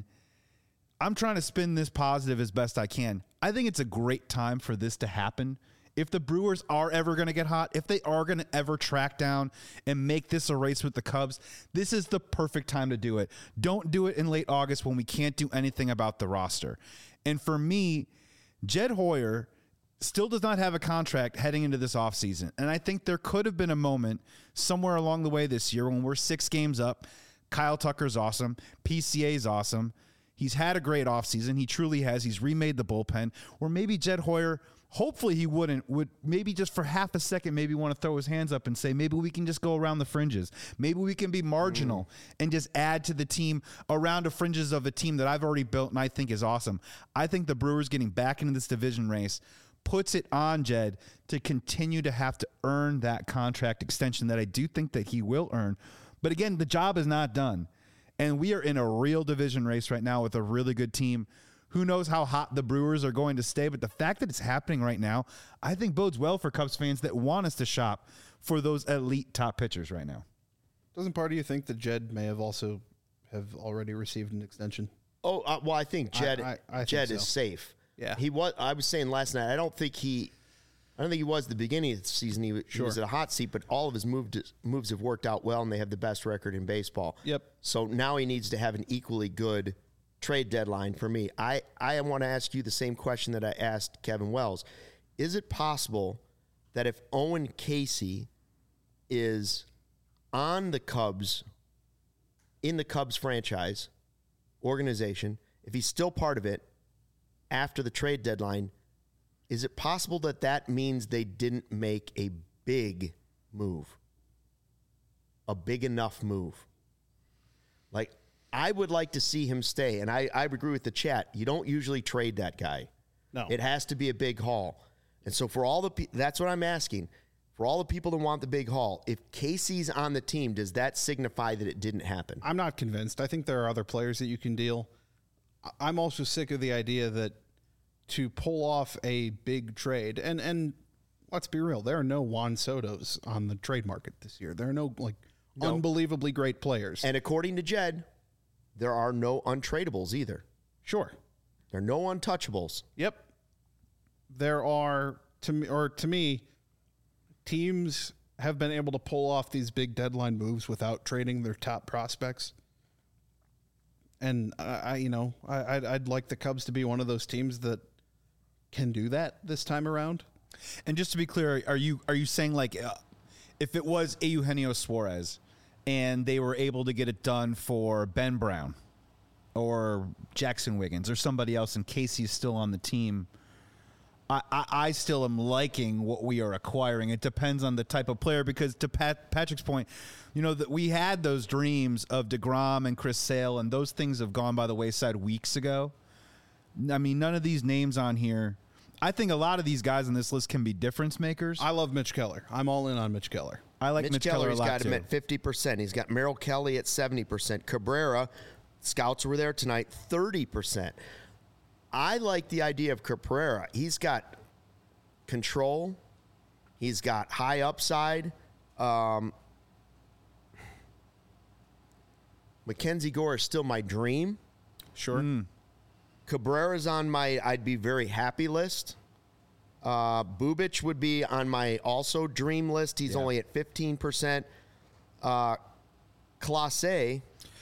I'm trying to spin this positive as best I can. I think it's a great time for this to happen. If the Brewers are ever going to get hot, if they are going to ever track down and make this a race with the Cubs, this is the perfect time to do it. Don't do it in late August when we can't do anything about the roster. And for me, Jed Hoyer still does not have a contract heading into this offseason. And I think there could have been a moment somewhere along the way this year when we're 6 games up. Kyle Tucker's awesome. PCA's awesome. He's had a great offseason. He truly has. He's remade the bullpen. Or maybe Jed Hoyer, hopefully he would maybe just for half a second maybe want to throw his hands up and say, maybe we can just go around the fringes. Maybe we can be marginal and just add to the team around the fringes of a team that I've already built and I think is awesome. I think the Brewers getting back into this division race puts it on Jed to continue to have to earn that contract extension that I do think that he will earn. But again, the job is not done. And we are in a real division race right now with a really good team. Who knows how hot the Brewers are going to stay, but the fact that it's happening right now, I think bodes well for Cubs fans that want us to shop for those elite top pitchers right now. Doesn't part of you think that Jed may have also have already received an extension? Oh, well, I think Jed I Jed think is so. safe. Yeah. I was saying last night, I don't think he was at the beginning of the season. He was at a hot seat, but all of his moves have worked out well, and they have the best record in baseball. Yep. So now he needs to have an equally good trade deadline for me. I want to ask you the same question that I asked Kevin Wells. Is it possible that if Owen Casey is on the Cubs, in the Cubs franchise organization, if he's still part of it after the trade deadline, is it possible that that means they didn't make a big move? A big enough move? Like, I would like to see him stay, and I agree with the chat. You don't usually trade that guy. No. It has to be a big haul. And so for all that's what I'm asking. For all the people that want the big haul, if Casey's on the team, does that signify that it didn't happen? I'm not convinced. I think there are other players that you can deal. I'm also sick of the idea that to pull off a big trade, and let's be real, there are no Juan Sotos on the trade market this year. There are no unbelievably great players. And according to Jed, there are no untradables either. Sure. There are no untouchables. Yep. There are, to me, teams have been able to pull off these big deadline moves without trading their top prospects. And I'd like the Cubs to be one of those teams that can do that this time around. And just to be clear, are you saying like if it was Eugenio Suarez and they were able to get it done for Ben Brown or Jackson Wiggins or somebody else in case he's still on the team, I still am liking what we are acquiring. It depends on the type of player, because to Patrick's point, that we had those dreams of DeGrom and Chris Sale, and those things have gone by the wayside weeks ago. I mean, none of these names on here. I think a lot of these guys on this list can be difference makers. I love Mitch Keller. I'm all in on Mitch Keller. I like Mitch Keller a lot, got him at 50%. He's got Merrill Kelly at 70%. Cabrera, scouts were there tonight, 30%. I like the idea of Cabrera. He's got control. He's got high upside. Mackenzie Gore is still my dream. Sure. Cabrera's on my I'd be very happy list. Bubic would be on my also dream list. He's only at 15%. Clase,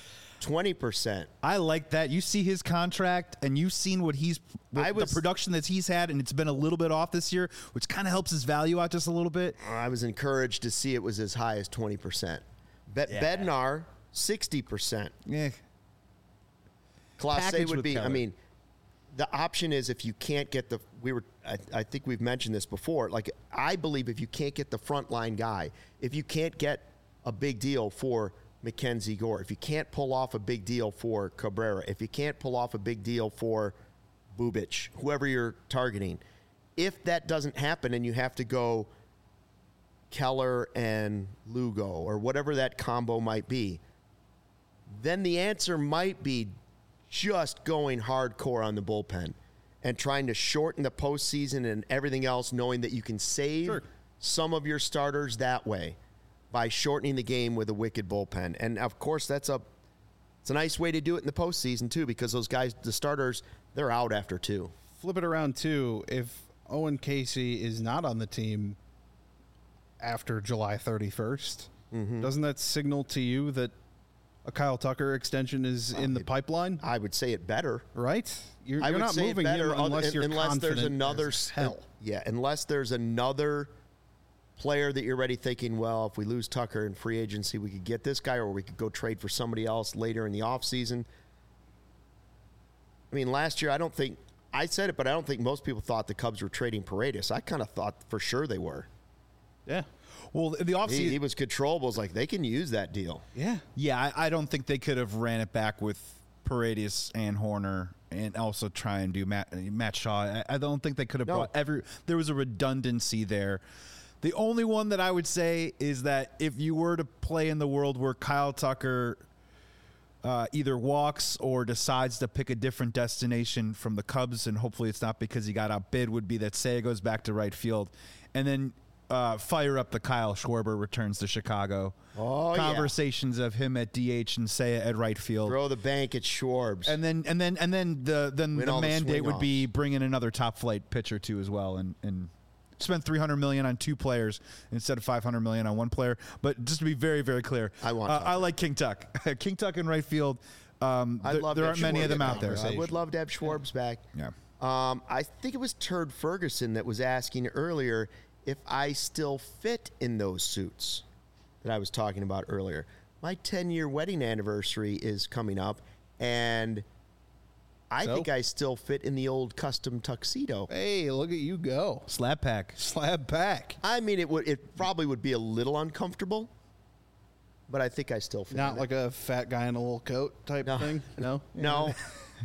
20%. I like that. You see his contract, and you've seen the production that he's had, and it's been a little bit off this year, which kind of helps his value out just a little bit. I was encouraged to see it was as high as 20%. Bednar, 60%. Yeah. Clase would be, Keller. I mean, the option is if you can't get I think we've mentioned this before. Like, I believe if you can't get the frontline guy, if you can't get a big deal for Mackenzie Gore, if you can't pull off a big deal for Cabrera, if you can't pull off a big deal for Bubic, whoever you're targeting, if that doesn't happen and you have to go Keller and Lugo or whatever that combo might be, then the answer might be just going hardcore on the bullpen and trying to shorten the postseason and everything else, knowing that you can save some of your starters that way by shortening the game with a wicked bullpen. And, of course, it's a nice way to do it in the postseason, too, because those guys, the starters, they're out after 2. Flip it around, too. If Owen Casey is not on the team after July 31st, doesn't that signal to you that a Kyle Tucker extension is in the pipeline? I would say it better. Right? You're not moving him unless you're confident there's another hell. Yeah, unless there's another player that you're already thinking, well, if we lose Tucker in free agency, we could get this guy, or we could go trade for somebody else later in the offseason. I mean, last year, I said it, but I don't think most people thought the Cubs were trading Paredes. I kind of thought for sure they were. Yeah. Well, the offseason, he was controllable. It's like they can use that deal. Yeah. Yeah, I don't think they could have ran it back with Paredes and Horner and also try and do Matt Shaw. I don't think they could have brought there was a redundancy there. The only one that I would say is that if you were to play in the world where Kyle Tucker either walks or decides to pick a different destination from the Cubs, and hopefully it's not because he got outbid, would be that Seiya goes back to right field, and then fire up the Kyle Schwarber returns to Chicago. Conversations of him at DH and Seiya at right field. Throw the bank at Schwarbs. And then the mandate would be bring in another top flight pitcher too as well, and spend $300 million on 2 players instead of $500 million on 1 player. But just to be very, very clear, I like King Tuck. King Tuck in right field. There aren't many of them out there. I would love to have Schwarbs back. Yeah. I think it was Turd Ferguson that was asking earlier if I still fit in those suits that I was talking about earlier. My 10-year wedding anniversary is coming up, and I think I still fit in the old custom tuxedo. Hey, look at you go. Slab pack. I mean, it probably would be a little uncomfortable, but I think I still fit. Not like a fat guy in a little coat type thing? No? No.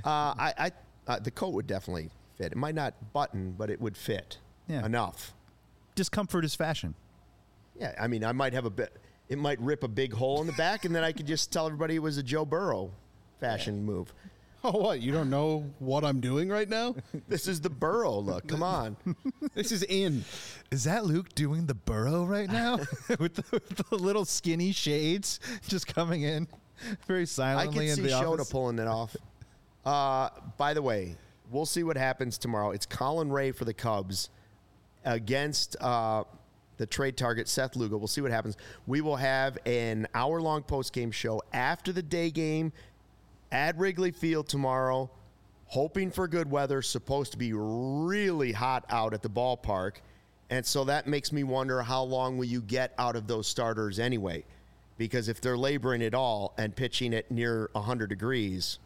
The coat would definitely fit. It might not button, but it would fit enough. Discomfort is fashion. Yeah, I mean, I might have it might rip a big hole in the back, and then I could just tell everybody it was a Joe Burrow fashion move. Oh, what? You don't know what I'm doing right now? This is the Burrow look. Come on. This is in. Is that Luke doing the Burrow right now? with the little skinny shades just coming in very silently in the office? I can see Shota pulling it off. By the way, we'll see what happens tomorrow. It's Colin Ray for the Cubs against the trade target, Seth Lugo. We'll see what happens. We will have an hour-long post-game show after the day game at Wrigley Field tomorrow, hoping for good weather. Supposed to be really hot out at the ballpark. And so that makes me wonder, how long will you get out of those starters anyway? Because if they're laboring at all and pitching at near 100 degrees,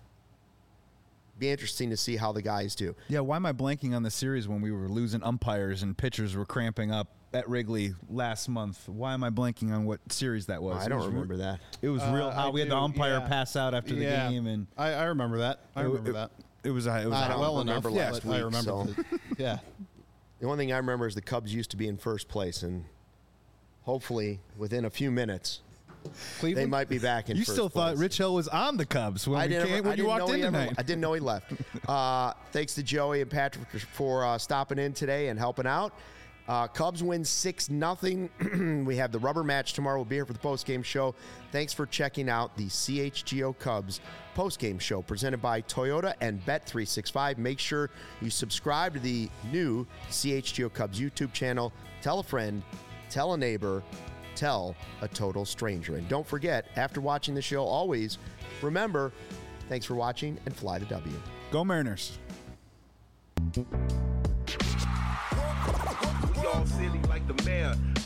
be interesting to see how the guys do. Yeah, why am I blanking on the series when we were losing umpires and pitchers were cramping up at Wrigley last month? Why am I blanking on what series that was? I don't remember that. It was real hot. We had the umpire pass out after the game, and I remember that. It was I don't remember last week. I remember. Yeah. The only thing I remember is the Cubs used to be in first place, and hopefully within a few minutes, Cleveland? They might be back in first place. You still thought Rich Hill was on the Cubs when you walked in tonight. I didn't know he left. Thanks to Joey and Patrick for stopping in today and helping out. Cubs win 6-0. We have the rubber match tomorrow. We'll be here for the postgame show. Thanks for checking out the CHGO Cubs postgame show presented by Toyota and Bet365. Make sure you subscribe to the new CHGO Cubs YouTube channel. Tell a friend, tell a neighbor, tell a total stranger. And don't forget, after watching the show, always remember, thanks for watching and fly the W. Go Mariners. We all silly like the mayor.